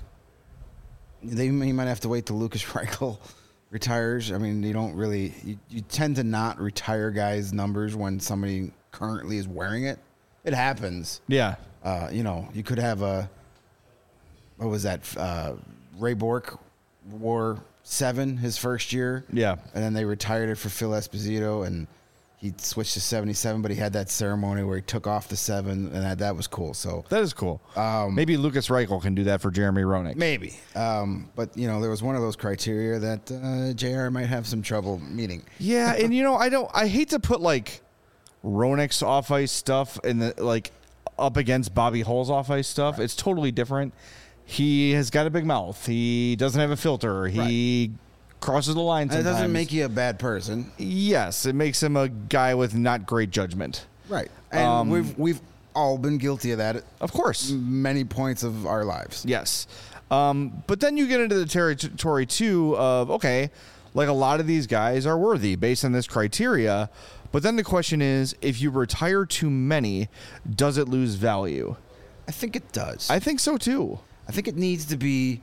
they he might have to wait till Lucas Reichel retires. I mean, you don't really, you, you tend to not retire guys' numbers when somebody currently is wearing it. It happens. Yeah. Uh, you know, you could have a, what was that? Uh, Ray Bork wore seven his first year. Yeah. And then they retired it for Phil Esposito, and he switched to seventy-seven, but he had that ceremony where he took off the seven, and that, that was cool. So That is cool. Um, Maybe Lucas Reichel can do that for Jeremy Roenick. maybe. Um, but, you know, there was one of those criteria that uh, J R might have some trouble meeting. Yeah, and you know, I don't I hate to put like Roenick's off ice stuff in the like up against Bobby Hull's off ice stuff. Right. It's totally different. He has got a big mouth. He doesn't have a filter. He right. crosses the line sometimes. And it doesn't make you a bad person. Yes, it makes him a guy with not great judgment. Right. And Um, we've we've all been guilty of that at Of course. many points of our lives. Yes. Um, but then you get into the territory, too, of, okay, like a lot of these guys are worthy based on this criteria. But then the question is, if you retire too many, does it lose value? I think it does. I think so, too. I think it needs to be.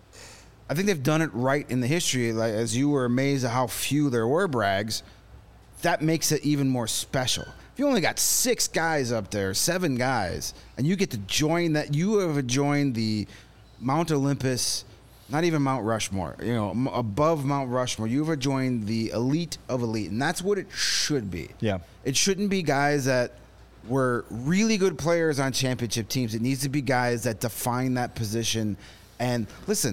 I think they've done it right in the history. Like, as you were amazed at how few there were brags, that makes it even more special. If you only got six guys up there, seven guys, and you get to join that, you have joined the Mount Olympus, not even Mount Rushmore, you know, m- above Mount Rushmore, you've joined the elite of elite, and that's what it should be. Yeah. It shouldn't be guys that were really good players on championship teams. It needs to be guys that define that position. And listen,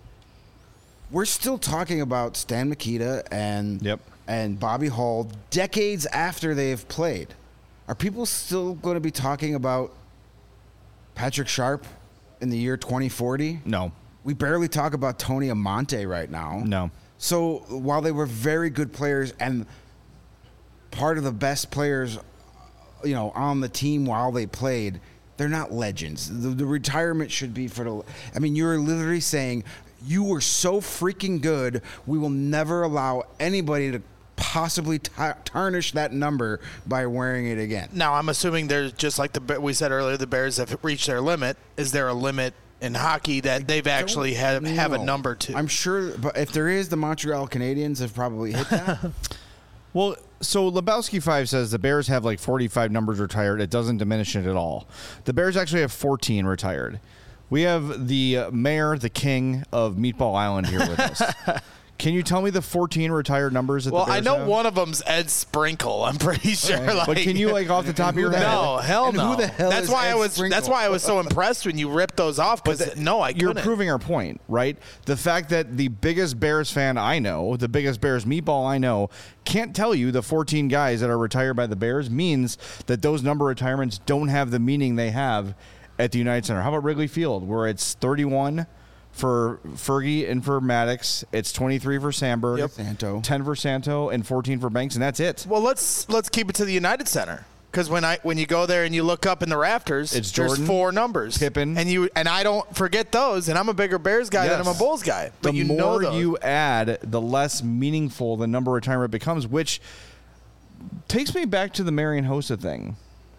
we're still talking about Stan Mikita and Yep. and Bobby Hull decades after they have played. Are people still going to be talking about Patrick Sharp in the year twenty forty? No. We barely talk about Tony Amonte right now. No. So while they were very good players and part of the best players, you know, on the team while they played, they're not legends. The, the retirement should be for the. I mean, you're literally saying you were so freaking good, we will never allow anybody to possibly t- tarnish that number by wearing it again. Now, I'm assuming there's just like the we said earlier, the Bears have reached their limit. Is there a limit in hockey that they've actually have, have a No. number to? I'm sure, but if there is, the Montreal Canadiens have probably hit that. Well, so Lebowski five says the Bears have like forty-five numbers retired. It doesn't diminish it at all. The Bears actually have fourteen retired. We have the mayor, the king of Meatball Island here with us. Can you tell me the fourteen retired numbers that well, the Bears I know have? one of them's Ed Sprinkle. I'm pretty sure. Like, But can you, like, off the top of your head? No, hell And no. who the hell that's is why Ed I was. Sprinkle? That's why I was so impressed when you ripped those off. Because no, I You're couldn't. proving our point, right? The fact that the biggest Bears fan I know, the biggest Bears meatball I know, can't tell you the fourteen guys that are retired by the Bears means that those number retirements don't have the meaning they have at the United Center. How about Wrigley Field, where it's thirty-one for Fergie and for Maddox, it's twenty-three for Sandberg, Yep. Santo. ten for Santo, and fourteen for Banks, and that's it. Well, let's let's keep it to the United Center. Because when I when you go there and you look up in the rafters, It's there's Jordan, four numbers. Pippen. and you and I don't forget those. And I'm a bigger Bears guy than Yes. I'm a Bulls guy. But the you more know those. you add, the less meaningful the number retirement becomes, which takes me back to the Marian Hossa thing.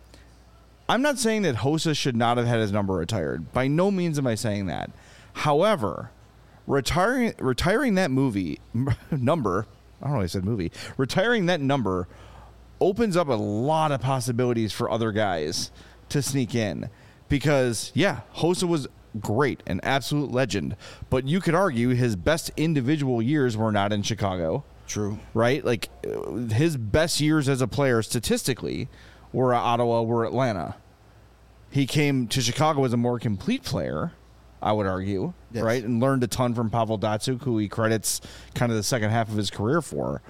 I'm not saying that Hossa should not have had his number retired. By no means am I saying that. However, retiring retiring that movie number. I don't know. Why I said movie. Retiring that number opens up a lot of possibilities for other guys to sneak in, because yeah, Hossa was great, an absolute legend, but you could argue his best individual years were not in Chicago. True. Right? Like his best years as a player statistically were at Ottawa, were Atlanta. He came to Chicago as a more complete player, I would argue, yes. right? And learned a ton from Pavel Datsyuk, who he credits kind of the second half of his career for.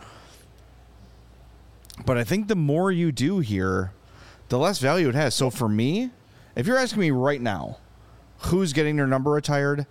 But I think the more you do here, the less value it has. So for me, if you're asking me right now, who's getting their number retired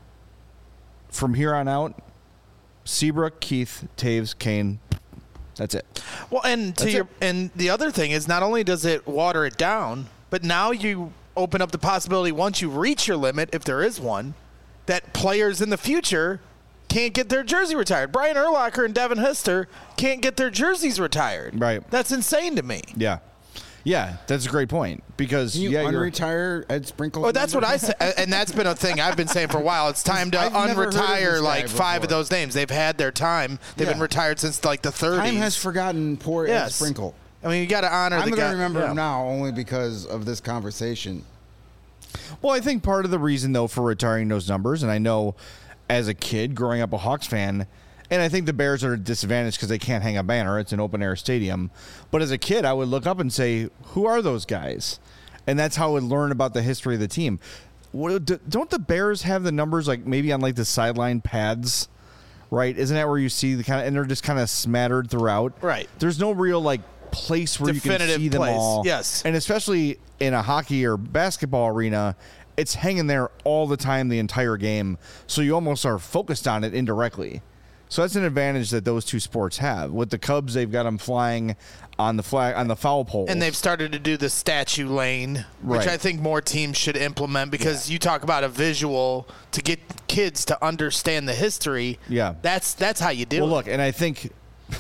from here on out, Seabrook, Keith, Taves, Kane. That's it. Well, and to That's your it. and the other thing is, not only does it water it down, but now you open up the possibility, once you reach your limit, if there is one, that players in the future can't get their jersey retired. Brian Urlacher and Devin Hester can't get their jerseys retired. Right. That's insane to me. Yeah. Yeah, that's a great point, because Can you yeah, you're- unretire Ed Sprinkle? Well, that's what I say, and that's been a thing I've been saying for a while. It's time to I've never heard of this unretire guy like five of before. those names. They've had their time. They've Yeah. been retired since like the thirties. Time has forgotten poor Ed Yes. Sprinkle. I mean, you got to honor I'm the going guy. to remember yeah. him now only because of this conversation. Well, I think part of the reason, though, for retiring those numbers, and I know as a kid growing up a Hawks fan, and I think the Bears are at a disadvantage because they can't hang a banner. It's an open-air stadium. But as a kid, I would look up and say, who are those guys? And that's how I would learn about the history of the team. What, don't the Bears have the numbers like maybe on like the sideline pads, right? Isn't that where you see the kind of, and they're just kind of smattered throughout? Right. There's no real like place where you can Definitive see them place, all. yes. And especially in a hockey or basketball arena, it's hanging there all the time, the entire game. So you almost are focused on it indirectly. So that's an advantage that those two sports have. With the Cubs, they've got them flying on the flag on the foul pole, And they've started to do the statue lane, which Right. I think more teams should implement, because you talk about a visual to get kids to understand the history. Yeah. That's that's how you do Well, it. look, and I think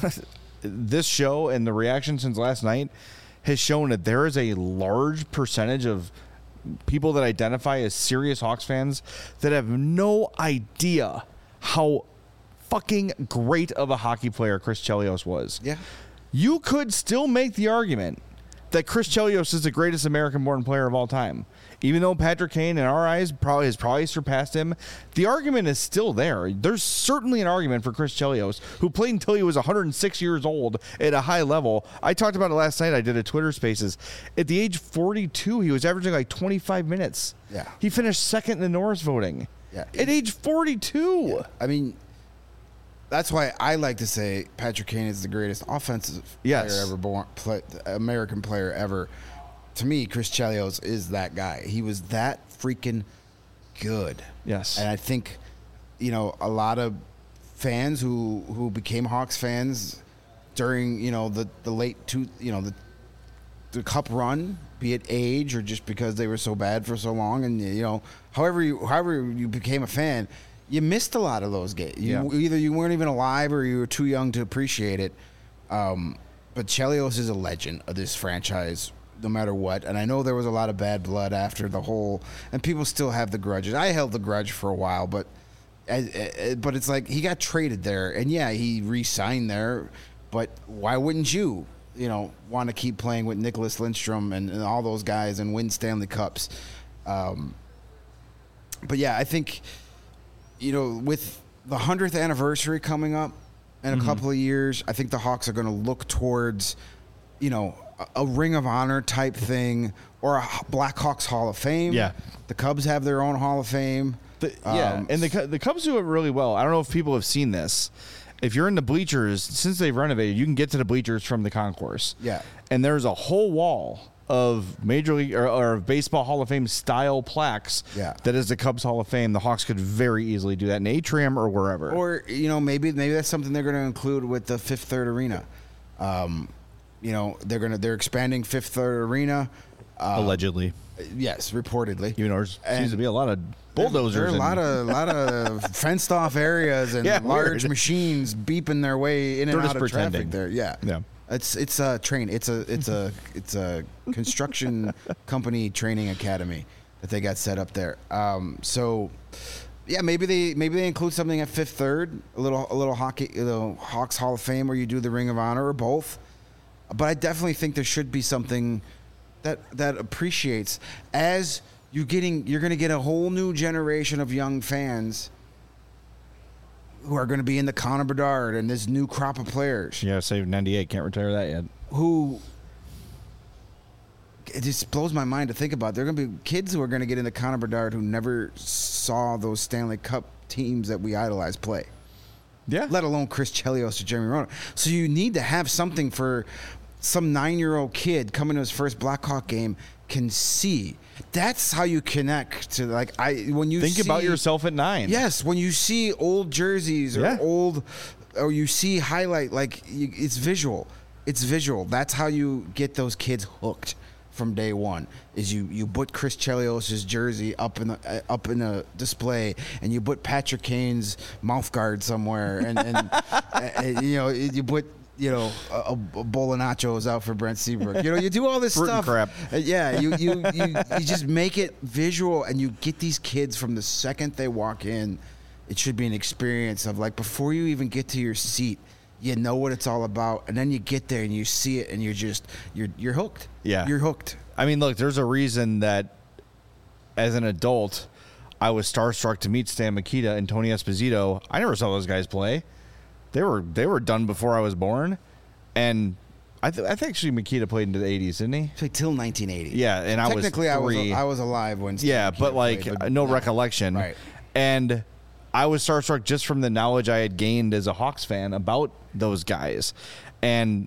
this show and the reaction since last night has shown that there is a large percentage of people that identify as serious Hawks fans that have no idea how fucking great of a hockey player Chris Chelios was. Yeah. You could still make the argument that Chris Chelios is the greatest American-born player of all time. Even though Patrick Kane, in our eyes, probably has probably surpassed him, the argument is still there. There's certainly an argument for Chris Chelios, who played until he was one hundred six years old at a high level. I talked about it last night. I did a Twitter Spaces. At the age forty-two, he was averaging like twenty-five minutes. Yeah. He finished second in the Norris voting. Yeah. At age forty-two. I mean, that's why I like to say Patrick Kane is the greatest offensive Yes. player ever born, play, American player ever. To me, Chris Chelios is that guy. He was that freaking good. Yes. And I think, you know, a lot of fans who, who became Hawks fans during, you know, the, the late two, you know, the the cup run, be it age or just because they were so bad for so long, and you know, however you however you became a fan, you missed a lot of those games. You, Yeah. Either you weren't even alive or you were too young to appreciate it. Um, but Chelios is a legend of this franchise, no matter what. And I know there was a lot of bad blood after the whole, and people still have the grudges. I held the grudge for a while, but I, I, but it's like he got traded there, and yeah, he re-signed there. But why wouldn't you, you know, want to keep playing with Nicholas Lindstrom and, and all those guys and win Stanley Cups? Um, but yeah, I think, you know, with the hundredth anniversary coming up in a Mm-hmm. couple of years, I think the Hawks are going to look towards, you know, a, a Ring of Honor type thing or a Blackhawks Hall of Fame. Yeah. The Cubs have their own Hall of Fame. The, yeah, Um, and the Cu- the Cubs do it really well. I don't know if people have seen this. If you're in the bleachers, since they've renovated, you can get to the bleachers from the concourse. Yeah. And there's a whole wall of Major League or, or Baseball Hall of Fame style plaques. Yeah. That is the Cubs Hall of Fame. The Hawks could very easily do that in Atrium or wherever. Or, you know, maybe maybe that's something they're going to include with the Fifth Third Arena. Um, you know, they're going to they're expanding Fifth Third Arena. Uh, allegedly, yes, reportedly. even though there seems And to be a lot of bulldozers. There are a and- lot of lot of fenced off areas and Yeah, large weird. machines beeping their way in and They're out just of traffic pretending. there. Yeah. Yeah. It's it's a train. It's a it's a it's a construction company training academy that they got set up there. Um, so yeah, maybe they maybe they include something at Fifth Third, a little a little hockey, you know, Hawks Hall of Fame, where you do the Ring of Honor or both. But I definitely think there should be something that that appreciates as you getting you're going to get a whole new generation of young fans who are going to be in the Connor Bedard and this new crop of players. Yeah, save ninety-eight. Can't retire that yet. Who it just blows my mind to think about. There are going to be kids who are going to get into Connor Bedard who never saw those Stanley Cup teams that we idolize play. Yeah. Let alone Chris Chelios or Jeremy Roenick. So you need to have something for some nine-year-old kid coming to his first Blackhawk game can see. That's how you connect to, like, I when you Think see, about yourself at nine. Yes, when you see old jerseys or Yeah. old, or you see highlight, like you, it's visual. It's visual. That's how you get those kids hooked from day one. Is you you put Chris Chelios' jersey up in the uh, up in a display, and you put Patrick Kane's mouth guard somewhere, and, and, and you know you put. You know, a, a bowl of nachos out for Brent Seabrook. You know, you do all this Fruit and stuff. crap. Uh, yeah, you, you you you just make it visual, and you get these kids from the second they walk in. It should be an experience of, like, before you even get to your seat, you know what it's all about, and then you get there and you see it, and you're just you're you're hooked. Yeah. You're hooked. I mean, look, there's a reason that as an adult, I was starstruck to meet Stan Mikita and Tony Esposito. I never saw those guys play. They were they were done before I was born, and I, th- I think actually Mikita played into the eighties, didn't he? Like till nineteen eighty. Yeah, and I was technically I was three. I was alive when. Steve Yeah, Mikita but like played, but no yeah. recollection. Right. And I was starstruck just from the knowledge I had gained as a Hawks fan about those guys, and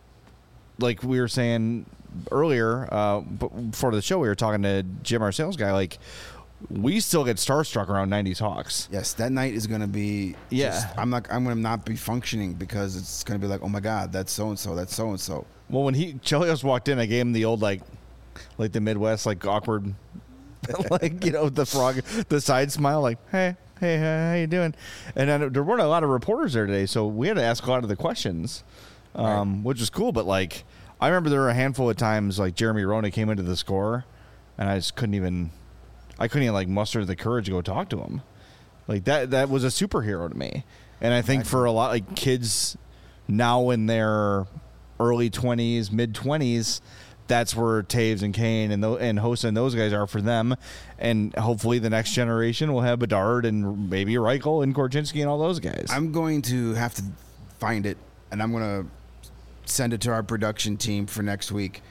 like we were saying earlier, uh, before the show, we were talking to Jim, our sales guy. Like, we still get starstruck around nineties Hawks. Yes, that night is going to be. Yeah. Just, I'm not. I'm going to not be functioning because it's going to be like, oh my God, that's so and so. That's so and so. Well, when he Chelios walked in, I gave him the old like, like the Midwest like awkward, like you know the frog, the side smile, like hey, hey, how you doing? And then there weren't a lot of reporters there today, so we had to ask a lot of the questions, um, right. which was cool. But like, I remember there were a handful of times like Jeremy Roenick came into the score, and I just couldn't even. I couldn't even like muster the courage to go talk to him. Like that that was a superhero to me. And I think for a lot like kids now in their early twenties, mid twenties, that's where Taves and Kane and th- and Hossa and those guys are for them. And hopefully the next generation will have Bedard and maybe Reichel and Korchinski and all those guys. I'm going to have to find it, and I'm going to send it to our production team for next week.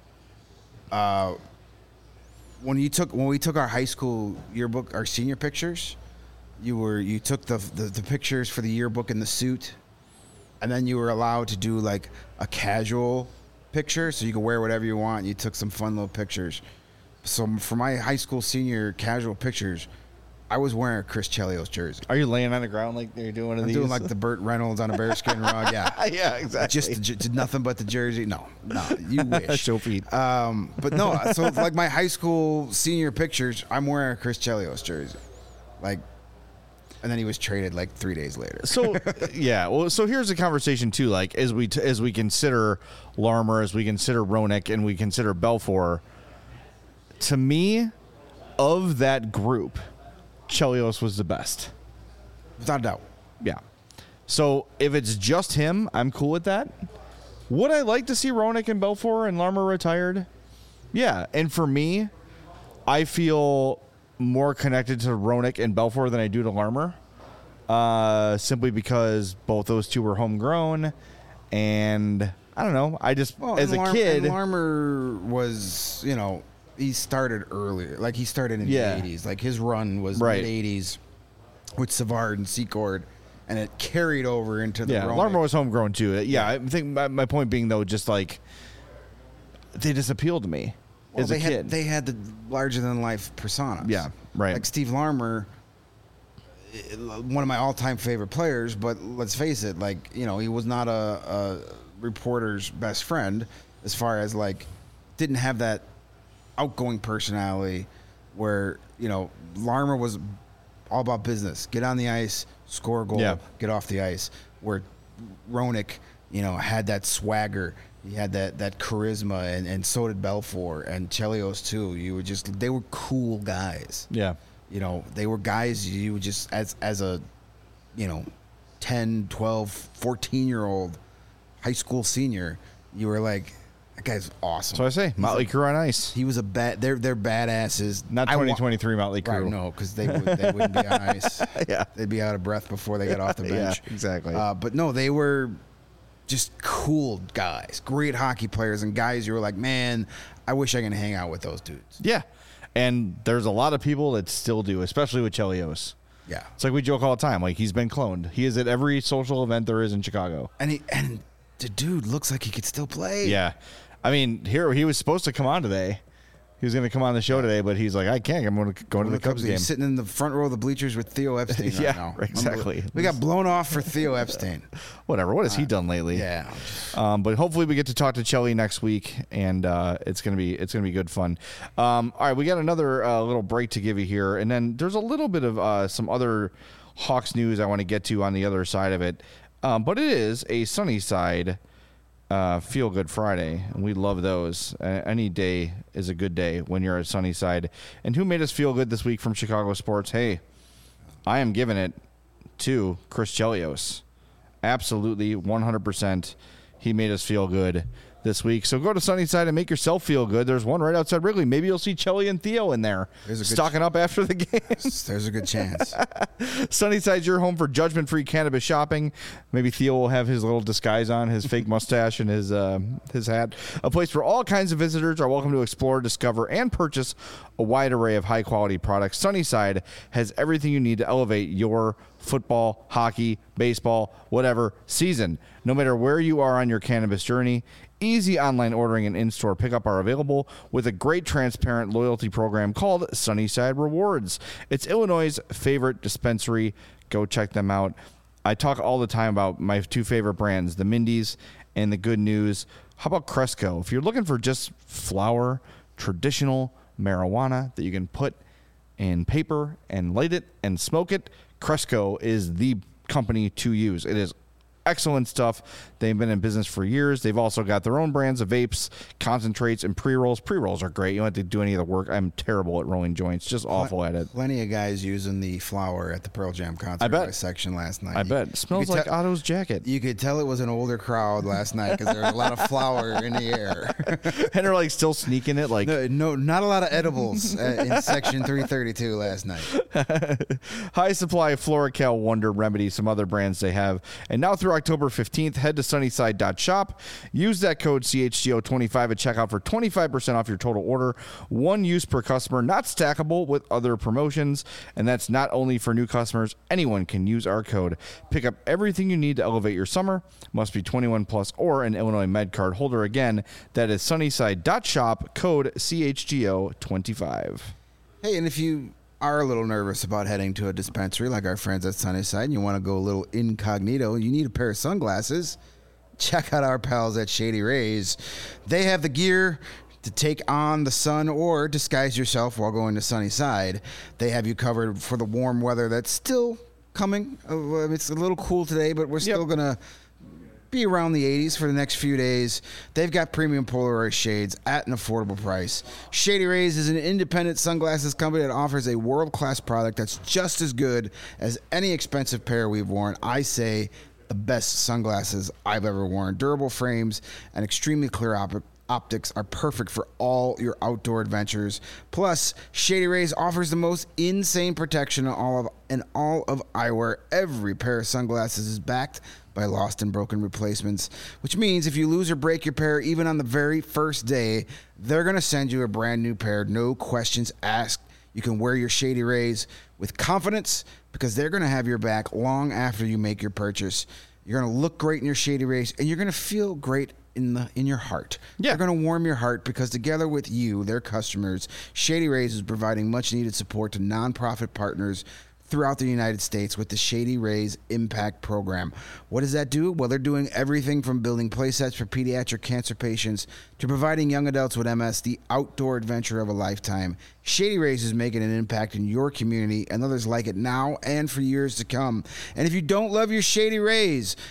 Uh When you took when we took our high school yearbook, our senior pictures, you were you took the, the the pictures for the yearbook in the suit, and then you were allowed to do like a casual picture, so you could wear whatever you want. And you took some fun little pictures. So for my high school senior casual pictures, I was wearing a Chris Chelios jersey. Are you laying on the ground like you're doing one of I'm these? doing like the Burt Reynolds on a bearskin rug. Yeah, yeah, exactly. Just, just nothing but the jersey. No, no, you wish. Show feet. Um, but no, so like my high school senior pictures, I'm wearing a Chris Chelios jersey, like, and then he was traded like three days later. So yeah, well, so here's the conversation too. Like as we t- as we consider Larmer, as we consider Roenick, and we consider Belfour. To me, of that group, Chelios was the best. Without a doubt. Yeah. So if it's just him, I'm cool with that. Would I like to see Roenick and Belfour and Larmer retired? Yeah. And for me, I feel more connected to Roenick and Belfour than I do to Larmer. Uh, simply because both those two were homegrown. And I don't know. I just, Well, as a Lar- kid. and Larmer was, you know, he started earlier. Like he started in Yeah. the eighties. Like his run was Right. mid eighties with Savard and Secord, and it carried over into the Yeah, Roenick. Larmer was homegrown too. Yeah, I think my, my point being though, just like they just appealed to me Well, as they a had, kid. They had the larger than life personas. Yeah, right. Like Steve Larmer, eh, one of my all time favorite players. But let's face it, like you know, he was not a, a reporter's best friend as far as like didn't have that outgoing personality where you know Larmer was all about business. Get on the ice, score a goal, Yeah. get off the ice. Where Roenick, you know, had that swagger. He had that, that charisma, and, and so did Belfour and Chelios too. You were just they were cool guys. yeah. You know, they were guys you would just, as as a, you know, ten, twelve, fourteen-year-old high school senior, you were like, that guy's awesome. So I say, Motley Crue on ice. He was a bad. They're they're badasses. Not I wa- twenty twenty-three Motley Crue. Right, no, because they, would, they wouldn't be on ice. Yeah. They'd be out of breath before they got off the bench. Yeah, exactly. Uh, but no, they were just cool guys, great hockey players, and guys you were like, man, I wish I could hang out with those dudes. Yeah. And there's a lot of people that still do, especially with Chelios. Yeah. It's like we joke all the time. Like, he's been cloned. He is at every social event there is in Chicago. And he and the dude looks like he could still play. Yeah. I mean, here he was supposed to come on today. He was going to come on the show today, but he's like, I can't. I'm going to go to the Cubs game. He's sitting in the front row of the bleachers with Theo Epstein right Yeah, now. exactly. We got blown off for Theo Epstein. Whatever. What has he done lately? Yeah. Um, but hopefully we get to talk to Chelly next week, and uh, it's gonna be it's gonna be good fun. Um, all right, we got another uh, little break to give you here, and then there's a little bit of uh, some other Hawks news I want to get to on the other side of it. Um, but it is a sunny side uh, Feel Good Friday, and we love those. Uh, any day is a good day when you're at Sunnyside. And who made us feel good this week from Chicago sports? Hey, I am giving it to Chris Chelios. Absolutely, one hundred percent. He made us feel good this week. So go to Sunnyside and make yourself feel good. There's one right outside Wrigley. Maybe you'll see Chelly and Theo in there There's a good stocking up after the game. There's a good chance. Sunnyside's your home for judgment-free cannabis shopping. Maybe Theo will have his little disguise on, his fake mustache and his uh, his hat. A place where all kinds of visitors are welcome to explore, discover, and purchase a wide array of high-quality products. Sunnyside has everything you need to elevate your football, hockey, baseball, whatever season. No matter where you are on your cannabis journey, easy online ordering and in-store pickup are available with a great transparent loyalty program called Sunnyside Rewards. It's Illinois' favorite dispensary. Go check them out. I talk all the time about my two favorite brands, the Mindy's and the Good News. How about Cresco? If you're looking for just flower, traditional marijuana that you can put in paper and light it and smoke it, Cresco is the company to use. It is excellent stuff. They've been in business for years. They've also got their own brands of vapes, concentrates, and pre-rolls. Pre-rolls are great. You don't have to do any of the work. I'm terrible at rolling joints. Just awful at it. Plenty of guys using the flower at the Pearl Jam concert I bet. section last night. I bet. It smells like te- Otto's jacket. You could tell it was an older crowd last night because there was a lot of flour in the air. And they're like still sneaking it. Like No, no, not a lot of edibles uh, in section three thirty-two last night. High Supply, FloraCal, Wonder Remedy, some other brands they have. And now through October fifteenth, head to sunnyside dot shop. Use that code C H G O twenty-five at checkout for twenty-five percent off your total order. One use per customer, not stackable with other promotions. And that's not only for new customers. Anyone can use our code. Pick up everything you need to elevate your summer. Must be twenty-one plus or an Illinois Med card holder. Again, that is sunnyside dot shop, code C H G O twenty-five. Hey, and if you are a little nervous about heading to a dispensary like our friends at Sunnyside and you want to go a little incognito, you need a pair of sunglasses, check out our pals at Shady Rays. They have the gear to take on the sun or disguise yourself while going to Sunnyside. They have you covered for the warm weather that's still coming. Uh, It's a little cool today, but we're still Yep. going to be around the eighties for the next few days. They've got premium Polaroid shades at an affordable price. Shady Rays is an independent sunglasses company that offers a world-class product that's just as good as any expensive pair we've worn. I say the best sunglasses I've ever worn. Durable frames and extremely clear op- optics are perfect for all your outdoor adventures. Plus, Shady Rays offers the most insane protection in all of in all of eyewear. Every pair of sunglasses is backed by lost and broken replacements, which means if you lose or break your pair even on the very first day, they're going to send you a brand new pair, no questions asked. You can wear your Shady Rays with confidence because they're going to have your back long after you make your purchase. You're going to look great in your Shady Rays, and you're going to feel great in the in your heart. Yeah. They're going to warm your heart because together with you, their customers, Shady Rays is providing much-needed support to nonprofit partners throughout the United States with the Shady Rays Impact Program. What does that do? Well, they're doing everything from building playsets for pediatric cancer patients to providing young adults with M S the outdoor adventure of a lifetime. Shady Rays is making an impact in your community and others like it now and for years to come. And if you don't love your Shady Rays,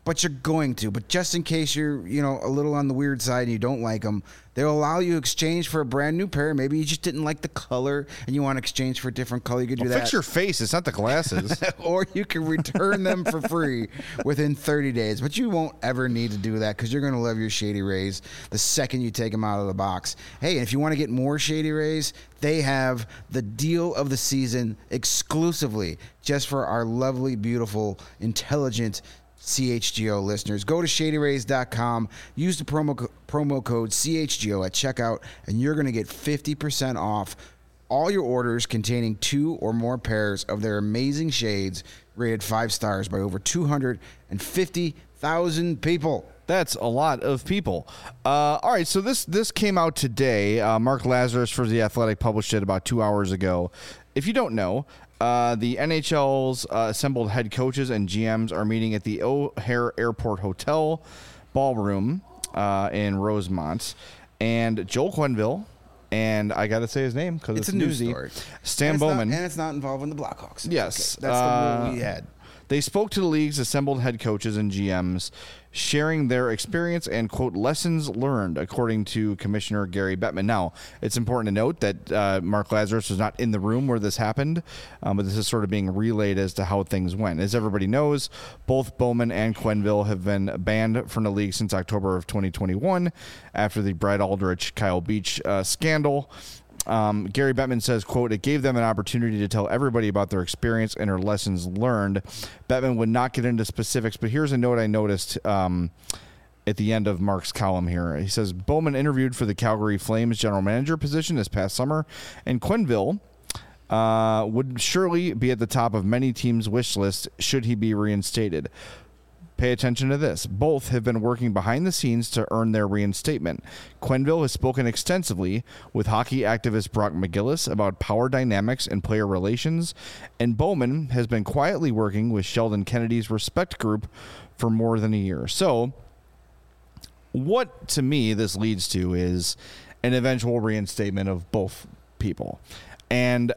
but you're going to. But just in case you're, you know, a little on the weird side and you don't like them, they'll allow you to exchange for a brand new pair. Maybe you just didn't like the color and you want to exchange for a different color. You could do Well, that. fix your face. It's not the glasses. Or you can return them for free within thirty days. But you won't ever need to do that because you're going to love your Shady Rays the second you take them out of the box. Hey, and if you want to get more Shady Rays, they have the deal of the season exclusively just for our lovely, beautiful, intelligent C H G O listeners. Go to shady rays dot com, use the promo co- promo code C H G O at checkout, and you're going to get fifty percent off all your orders containing two or more pairs of their amazing shades rated five stars by over two hundred fifty thousand people. That's a lot of people. Uh, all right, so this this came out today. Uh, Mark Lazarus for The Athletic published it about two hours ago. If you don't know, uh, the N H L's uh, assembled head coaches and G Ms are meeting at the O'Hare Airport Hotel ballroom uh, in Rosemont. And Joel Quenneville, and I got to say his name because it's, It's it's a news newsy, story. Stan and it's Bowman. Not, and it's not involving the Blackhawks. It's Yes. okay. That's the rule Uh, we had. They spoke to the league's assembled head coaches and G Ms, sharing their experience and, quote, lessons learned, according to Commissioner Gary Bettman. Now, it's important to note that uh, Mark Lazarus was not in the room where this happened, um, but this is sort of being relayed as to how things went. As everybody knows, both Bowman and Quenneville have been banned from the league since October of twenty twenty-one after the Brad Aldrich, Kyle Beach uh, scandal. Um, Gary Bettman says, quote, it gave them an opportunity to tell everybody about their experience and their lessons learned. Bettman would not get into specifics, but here's a note I noticed um, at the end of Mark's column here. He says, Bowman interviewed for the Calgary Flames general manager position this past summer, and Quenneville uh, would surely be at the top of many teams' wish list should he be reinstated. Pay attention to this. Both have been working behind the scenes to earn their reinstatement. Quenneville has spoken extensively with hockey activist Brock McGillis about power dynamics and player relations, and Bowman has been quietly working with Sheldon Kennedy's Respect Group for more than a year. So, what to me this leads to is an eventual reinstatement of both people. And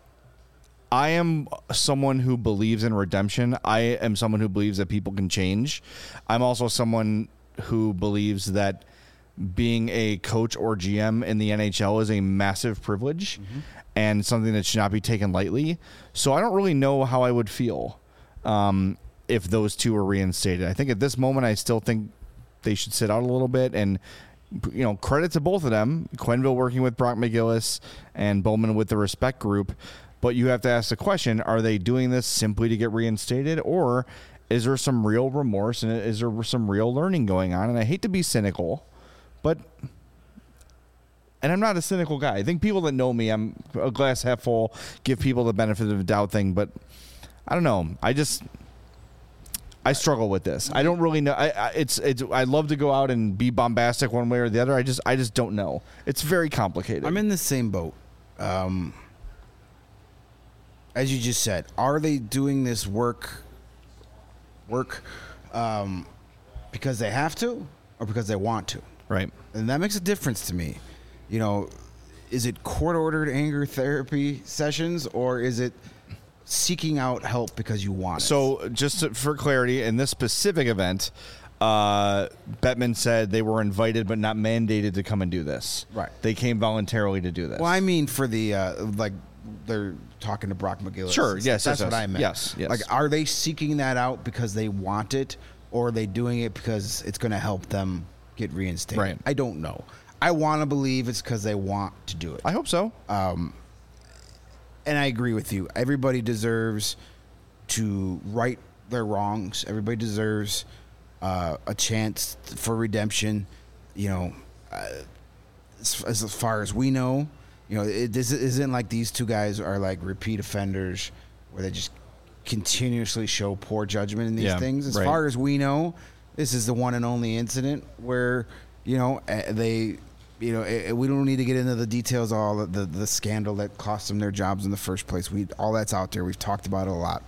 I am someone who believes in redemption. I am someone who believes that people can change. I'm also someone who believes that being a coach or G M in the N H L is a massive privilege mm-hmm. and something that should not be taken lightly. So I don't really know how I would feel um, if those two were reinstated. I think at this moment, I still think they should sit out a little bit, and you know, credit to both of them. Quenneville working with Brock McGillis and Bowman with the Respect Group. But you have to ask the question, are they doing this simply to get reinstated, or is there some real remorse and is there some real learning going on? And I hate to be cynical, but, and I'm not a cynical guy. I think people that know me, I'm a glass half full, give people the benefit of the doubt thing, but I don't know. I just, I struggle with this. I don't really know. I, I it's it's. I'd love to go out and be bombastic one way or the other. I just I just don't know. It's very complicated. I'm in the same boat. Um, as you just said, are they doing this work work um, because they have to or because they want to? Right. And that makes a difference to me. You know, is it court-ordered anger therapy sessions, or is it seeking out help because you want it? So just to, for clarity, in this specific event, uh, Bettman said they were invited but not mandated to come and do this. Right. They came voluntarily to do this. Well, I mean for the, uh, like, they're talking to Brock McGillis. Sure, yes, That's yes, what yes. I meant. Yes, yes. Like, are they seeking that out because they want it, or are they doing it because it's going to help them get reinstated? Right. I don't know. I want to believe it's because they want to do it. I hope so. Um, and I agree with you. Everybody deserves to right their wrongs. Everybody deserves uh, a chance for redemption. You know, uh, as, as far as we know, you know, it, this isn't like these two guys are like repeat offenders where they just continuously show poor judgment in these Yeah, things. As right. far as we know, this is the one and only incident where, you know, uh, they... You know, it, we don't need to get into the details of all the, the, the scandal that cost them their jobs in the first place. We all that's out there. We've talked about it a lot.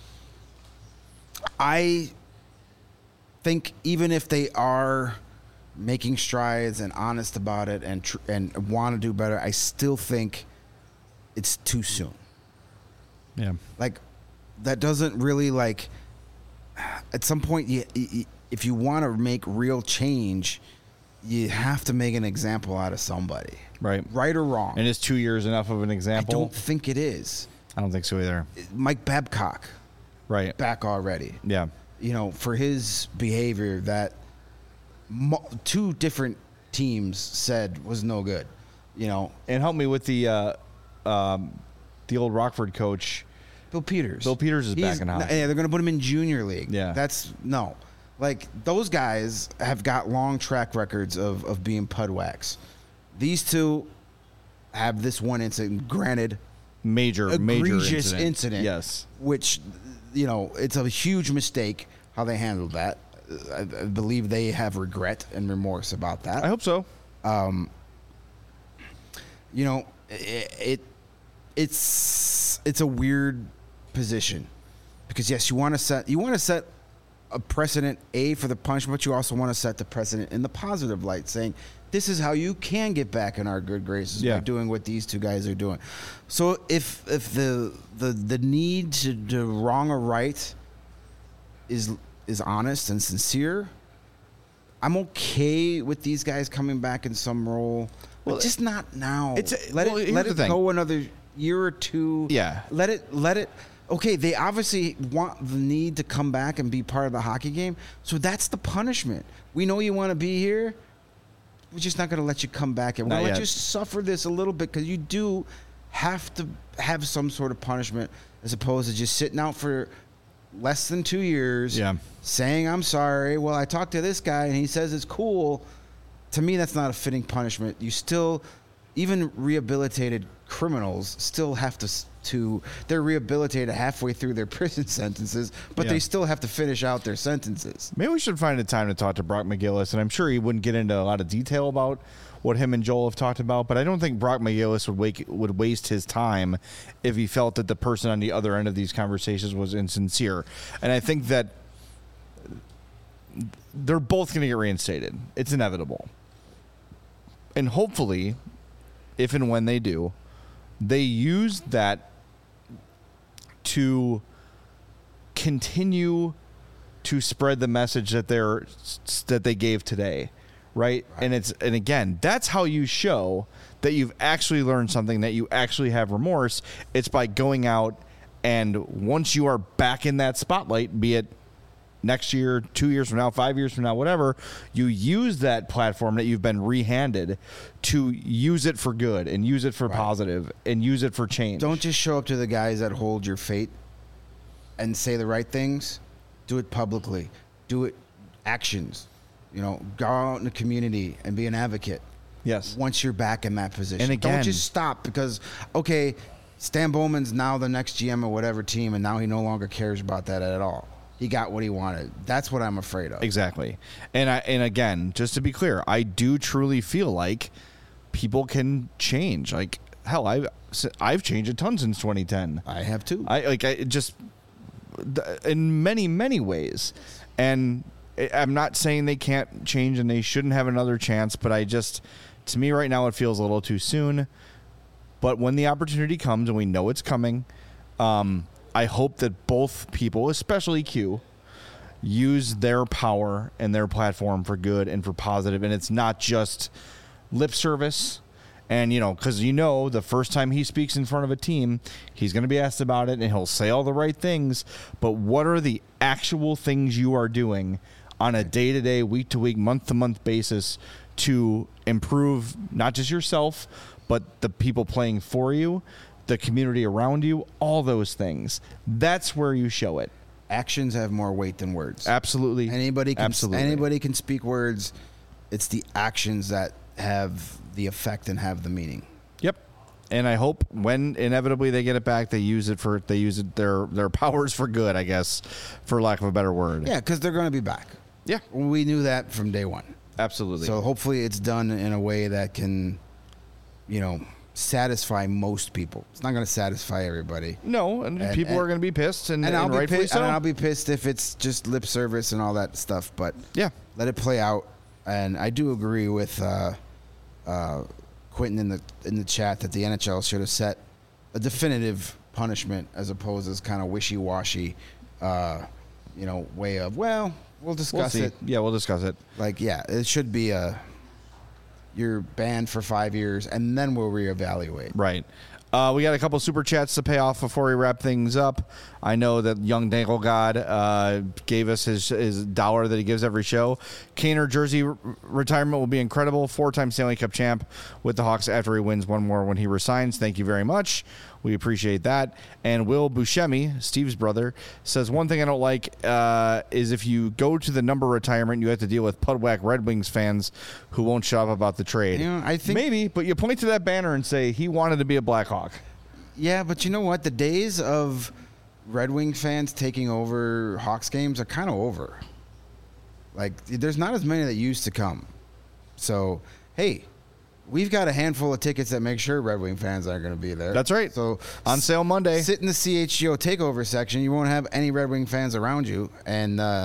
I think even if they are making strides and honest about it and tr- and want to do better, I still think it's too soon. Yeah. Like, that doesn't really like at some point, you, you, if you want to make real change, you have to make an example out of somebody. Right. Right or wrong. And is two years enough of an I example? don't think it is. I don't think so either. Mike Babcock, Right. back already. Yeah. You know, for his behavior that mo- two different teams said was no good. You know, And help me with the uh, um, the old Rockford coach. Bill Peters. Bill Peters is He's- back in hockey. Yeah, they're going to put him in junior league. Yeah. That's no. Like those guys have got long track records of of being pudwax. These two have this one incident. Granted, Major, major egregious incident. incident. Yes. Which, you know, it's a huge mistake how they handled that. I, I believe they have regret and remorse about that. I hope so. you know, it, it it's it's a weird position because yes, you want to set you want to set a precedent a for the punishment, but you also want to set the precedent in the positive light, saying this is how you can get back in our good graces Yeah. by doing what these two guys are doing. So if if the the the need to, to wrong or right is is honest and sincere, I'm okay with these guys coming back in some role, but Well, just not now. it's- let well, it here's let the it thing. go another year or two. Yeah. Let it let it. Okay, they obviously want the need to come back and be part of the hockey game, so that's the punishment. We know you want to be here. We're just not going to let you come back, and we're Not going to let yet. you suffer this a little bit because you do have to have some sort of punishment as opposed to just sitting out for less than two years. Yeah. Saying I'm sorry. Well, I talked to this guy and he says it's cool. To me, that's not a fitting punishment. You still, even rehabilitated criminals still have to s- to they're rehabilitated halfway through their prison sentences, but Yeah. they still have to finish out their sentences. Maybe we should find a time to talk to Brock McGillis, and I'm sure he wouldn't get into a lot of detail about what him and Joel have talked about, but I don't think Brock McGillis would wake, would waste his time if he felt that the person on the other end of these conversations was insincere. And I think that they're both going to get reinstated. It's inevitable. And hopefully, if and when they do, they use that to continue to spread the message that they're that they gave today, right? And it's and again, that's how you show that you've actually learned something, that you actually have remorse. It's by going out and once you are back in that spotlight, be it next year, two years from now, five years from now, whatever, you use that platform that you've been rehanded to use it for good and use it for positive and use it for change. Don't just show up to the guys that hold your fate and say the right things. Do it publicly. Do it actions. You know, go out in the community and be an advocate. Yes. Once you're back in that position. And again- don't just stop because, okay, Stan Bowman's now the next G M of whatever team, and now he no longer cares about that at all. He got what he wanted. That's what I'm afraid of. Exactly. And I and again, just to be clear, I do truly feel like people can change. Like hell, I've I've changed a ton since twenty ten. I have too. I like I just in many many ways, and I'm not saying they can't change and they shouldn't have another chance, but I just to me right now it feels a little too soon. But when the opportunity comes, and we know it's coming, um, I hope that both people, especially Q, use their power and their platform for good and for positive, and it's not just lip service. And, you know, because, you know, the first time he speaks in front of a team, he's going to be asked about it, and he'll say all the right things. But what are the actual things you are doing on a day-to-day, week-to-week, month-to-month basis to improve not just yourself, but the people playing for you, the community around you, all those things? That's where you show it. Actions have more weight than words. Absolutely. Anybody can Absolutely. anybody can speak words. It's the actions that have the effect and have the meaning. Yep. And I hope when inevitably they get it back, they use it for they use it their their powers for good, I guess, for lack of a better word. Yeah, because they're going to be back. Yeah. We knew that from day one. Absolutely. So hopefully it's done in a way that can, you know, satisfy most people. It's not going to satisfy everybody. no, and, And- people and- are going to be pissed, and, And, and I'll be rightfully pissed, so. and I'll be pissed if it's just lip service and all that stuff. But yeah. let it play out. And I do agree with uh, uh, Quentin in the in the chat that the N H L should have set a definitive punishment as opposed to this kind of wishy washy. Uh, you know, way of, well, we'll discuss We'll see. it. Yeah, we'll discuss it. Like, yeah, it should be a, you're banned for five years, and then we'll reevaluate. Right. Uh, we got a couple super chats to pay off before we wrap things up. I know that Young Dangle God uh, gave us his, his dollar that he gives every show. Kaner jersey re- retirement will be incredible. Four-time Stanley Cup champ with the Hawks after he wins one more when he resigns. Thank you very much. We appreciate that. And Will Buscemi, Steve's brother, says one thing I don't like uh, is if you go to the number retirement, you have to deal with Pudwack Red Wings fans who won't shut up about the trade. You know, I think maybe, but you point to that banner and say he wanted to be a Blackhawk. Yeah, but you know what? The days of Red Wing fans taking over Hawks games are kind of over. Like, there's not as many that used to come. So, hey, we've got a handful of tickets that make sure Red Wing fans aren't going to be there. That's right. So on sale Monday. Sit in the C H G O takeover section. You won't have any Red Wing fans around you. And, uh,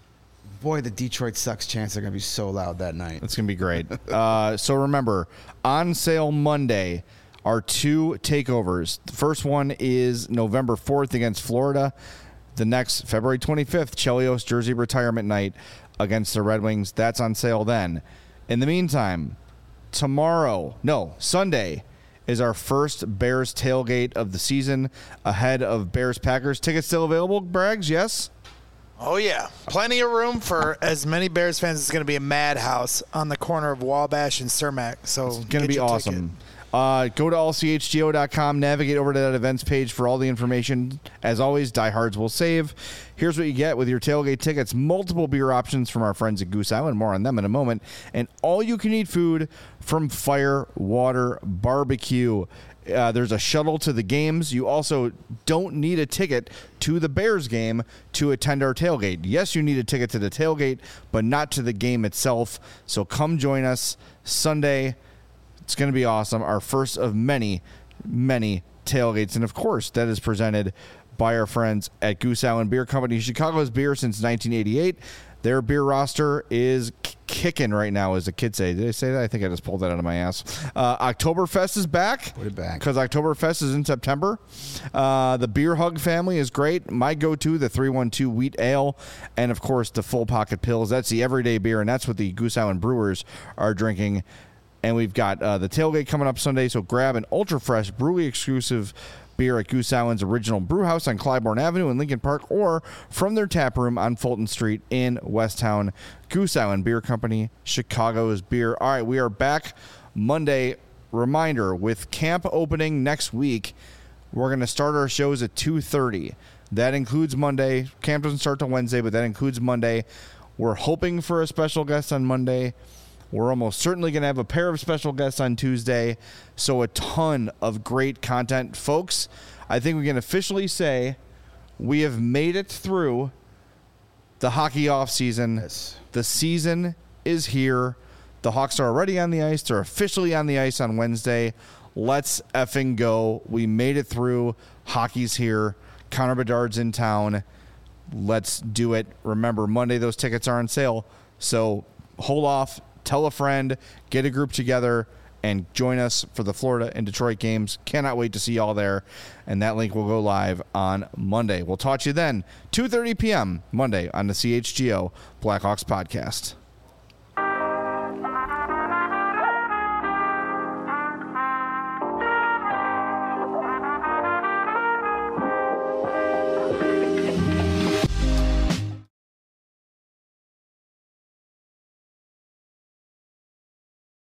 boy, the Detroit Sucks chants are going to be so loud that night. It's going to be great. uh, so remember, on sale Monday are two takeovers. The first one is November fourth against Florida. The next, February twenty-fifth, Chelios jersey retirement night against the Red Wings. That's on sale then. In the meantime, tomorrow, no, Sunday, is our first Bears tailgate of the season ahead of Bears-Packers. Tickets still available, Braggs? Yes? Oh, yeah. Plenty of room for as many Bears fans. It's going to be a madhouse on the corner of Wabash and Cermak. So It's going to be awesome. Uh, go to all c h g o dot com, navigate over to that events page for all the information. As always, diehards will save. Here's what you get with your tailgate tickets. Multiple beer options from our friends at Goose Island. More on them in a moment. And all-you-can-eat food from Fire Water Barbecue. Uh, there's a shuttle to the games. You also don't need a ticket to the Bears game to attend our tailgate. Yes, you need a ticket to the tailgate, but not to the game itself. So come join us Sunday. It's going to be awesome. Our first of many, many tailgates. And, of course, that is presented by our friends at Goose Island Beer Company. Chicago's beer since nineteen eighty-eight. Their beer roster is k- kicking right now, as the kids say. Did I say that? I think I just pulled that out of my ass. Uh, Oktoberfest is back. Put it back. Because Oktoberfest is in September. Uh, the Beer Hug family is great. My go-to, the three one two Wheat Ale. And, of course, the Full Pocket Pills. That's the everyday beer, and that's what the Goose Island Brewers are drinking. And we've got uh, the tailgate coming up Sunday, so grab an ultra-fresh, brewery-exclusive beer at Goose Island's original brew house on Clybourne Avenue in Lincoln Park, or from their tap room on Fulton Street in Westtown. Goose Island Beer Company, Chicago's beer. All right, we are back Monday. Reminder, with camp opening next week, we're going to start our shows at two thirty. That includes Monday. Camp doesn't start till Wednesday, but that includes Monday. We're hoping for a special guest on Monday. We're almost certainly going to have a pair of special guests on Tuesday. So a ton of great content. Folks, I think we can officially say we have made it through the hockey offseason. Yes. The season is here. The Hawks are already on the ice. They're officially on the ice on Wednesday. Let's effing go. We made it through. Hockey's here. Connor Bedard's in town. Let's do it. Remember, Monday those tickets are on sale. So hold off. Tell a friend, get a group together, and join us for the Florida and Detroit games. Cannot wait to see y'all there. And that link will go live on Monday. We'll talk to you then, two thirty p.m. Monday on the C H G O Blackhawks podcast.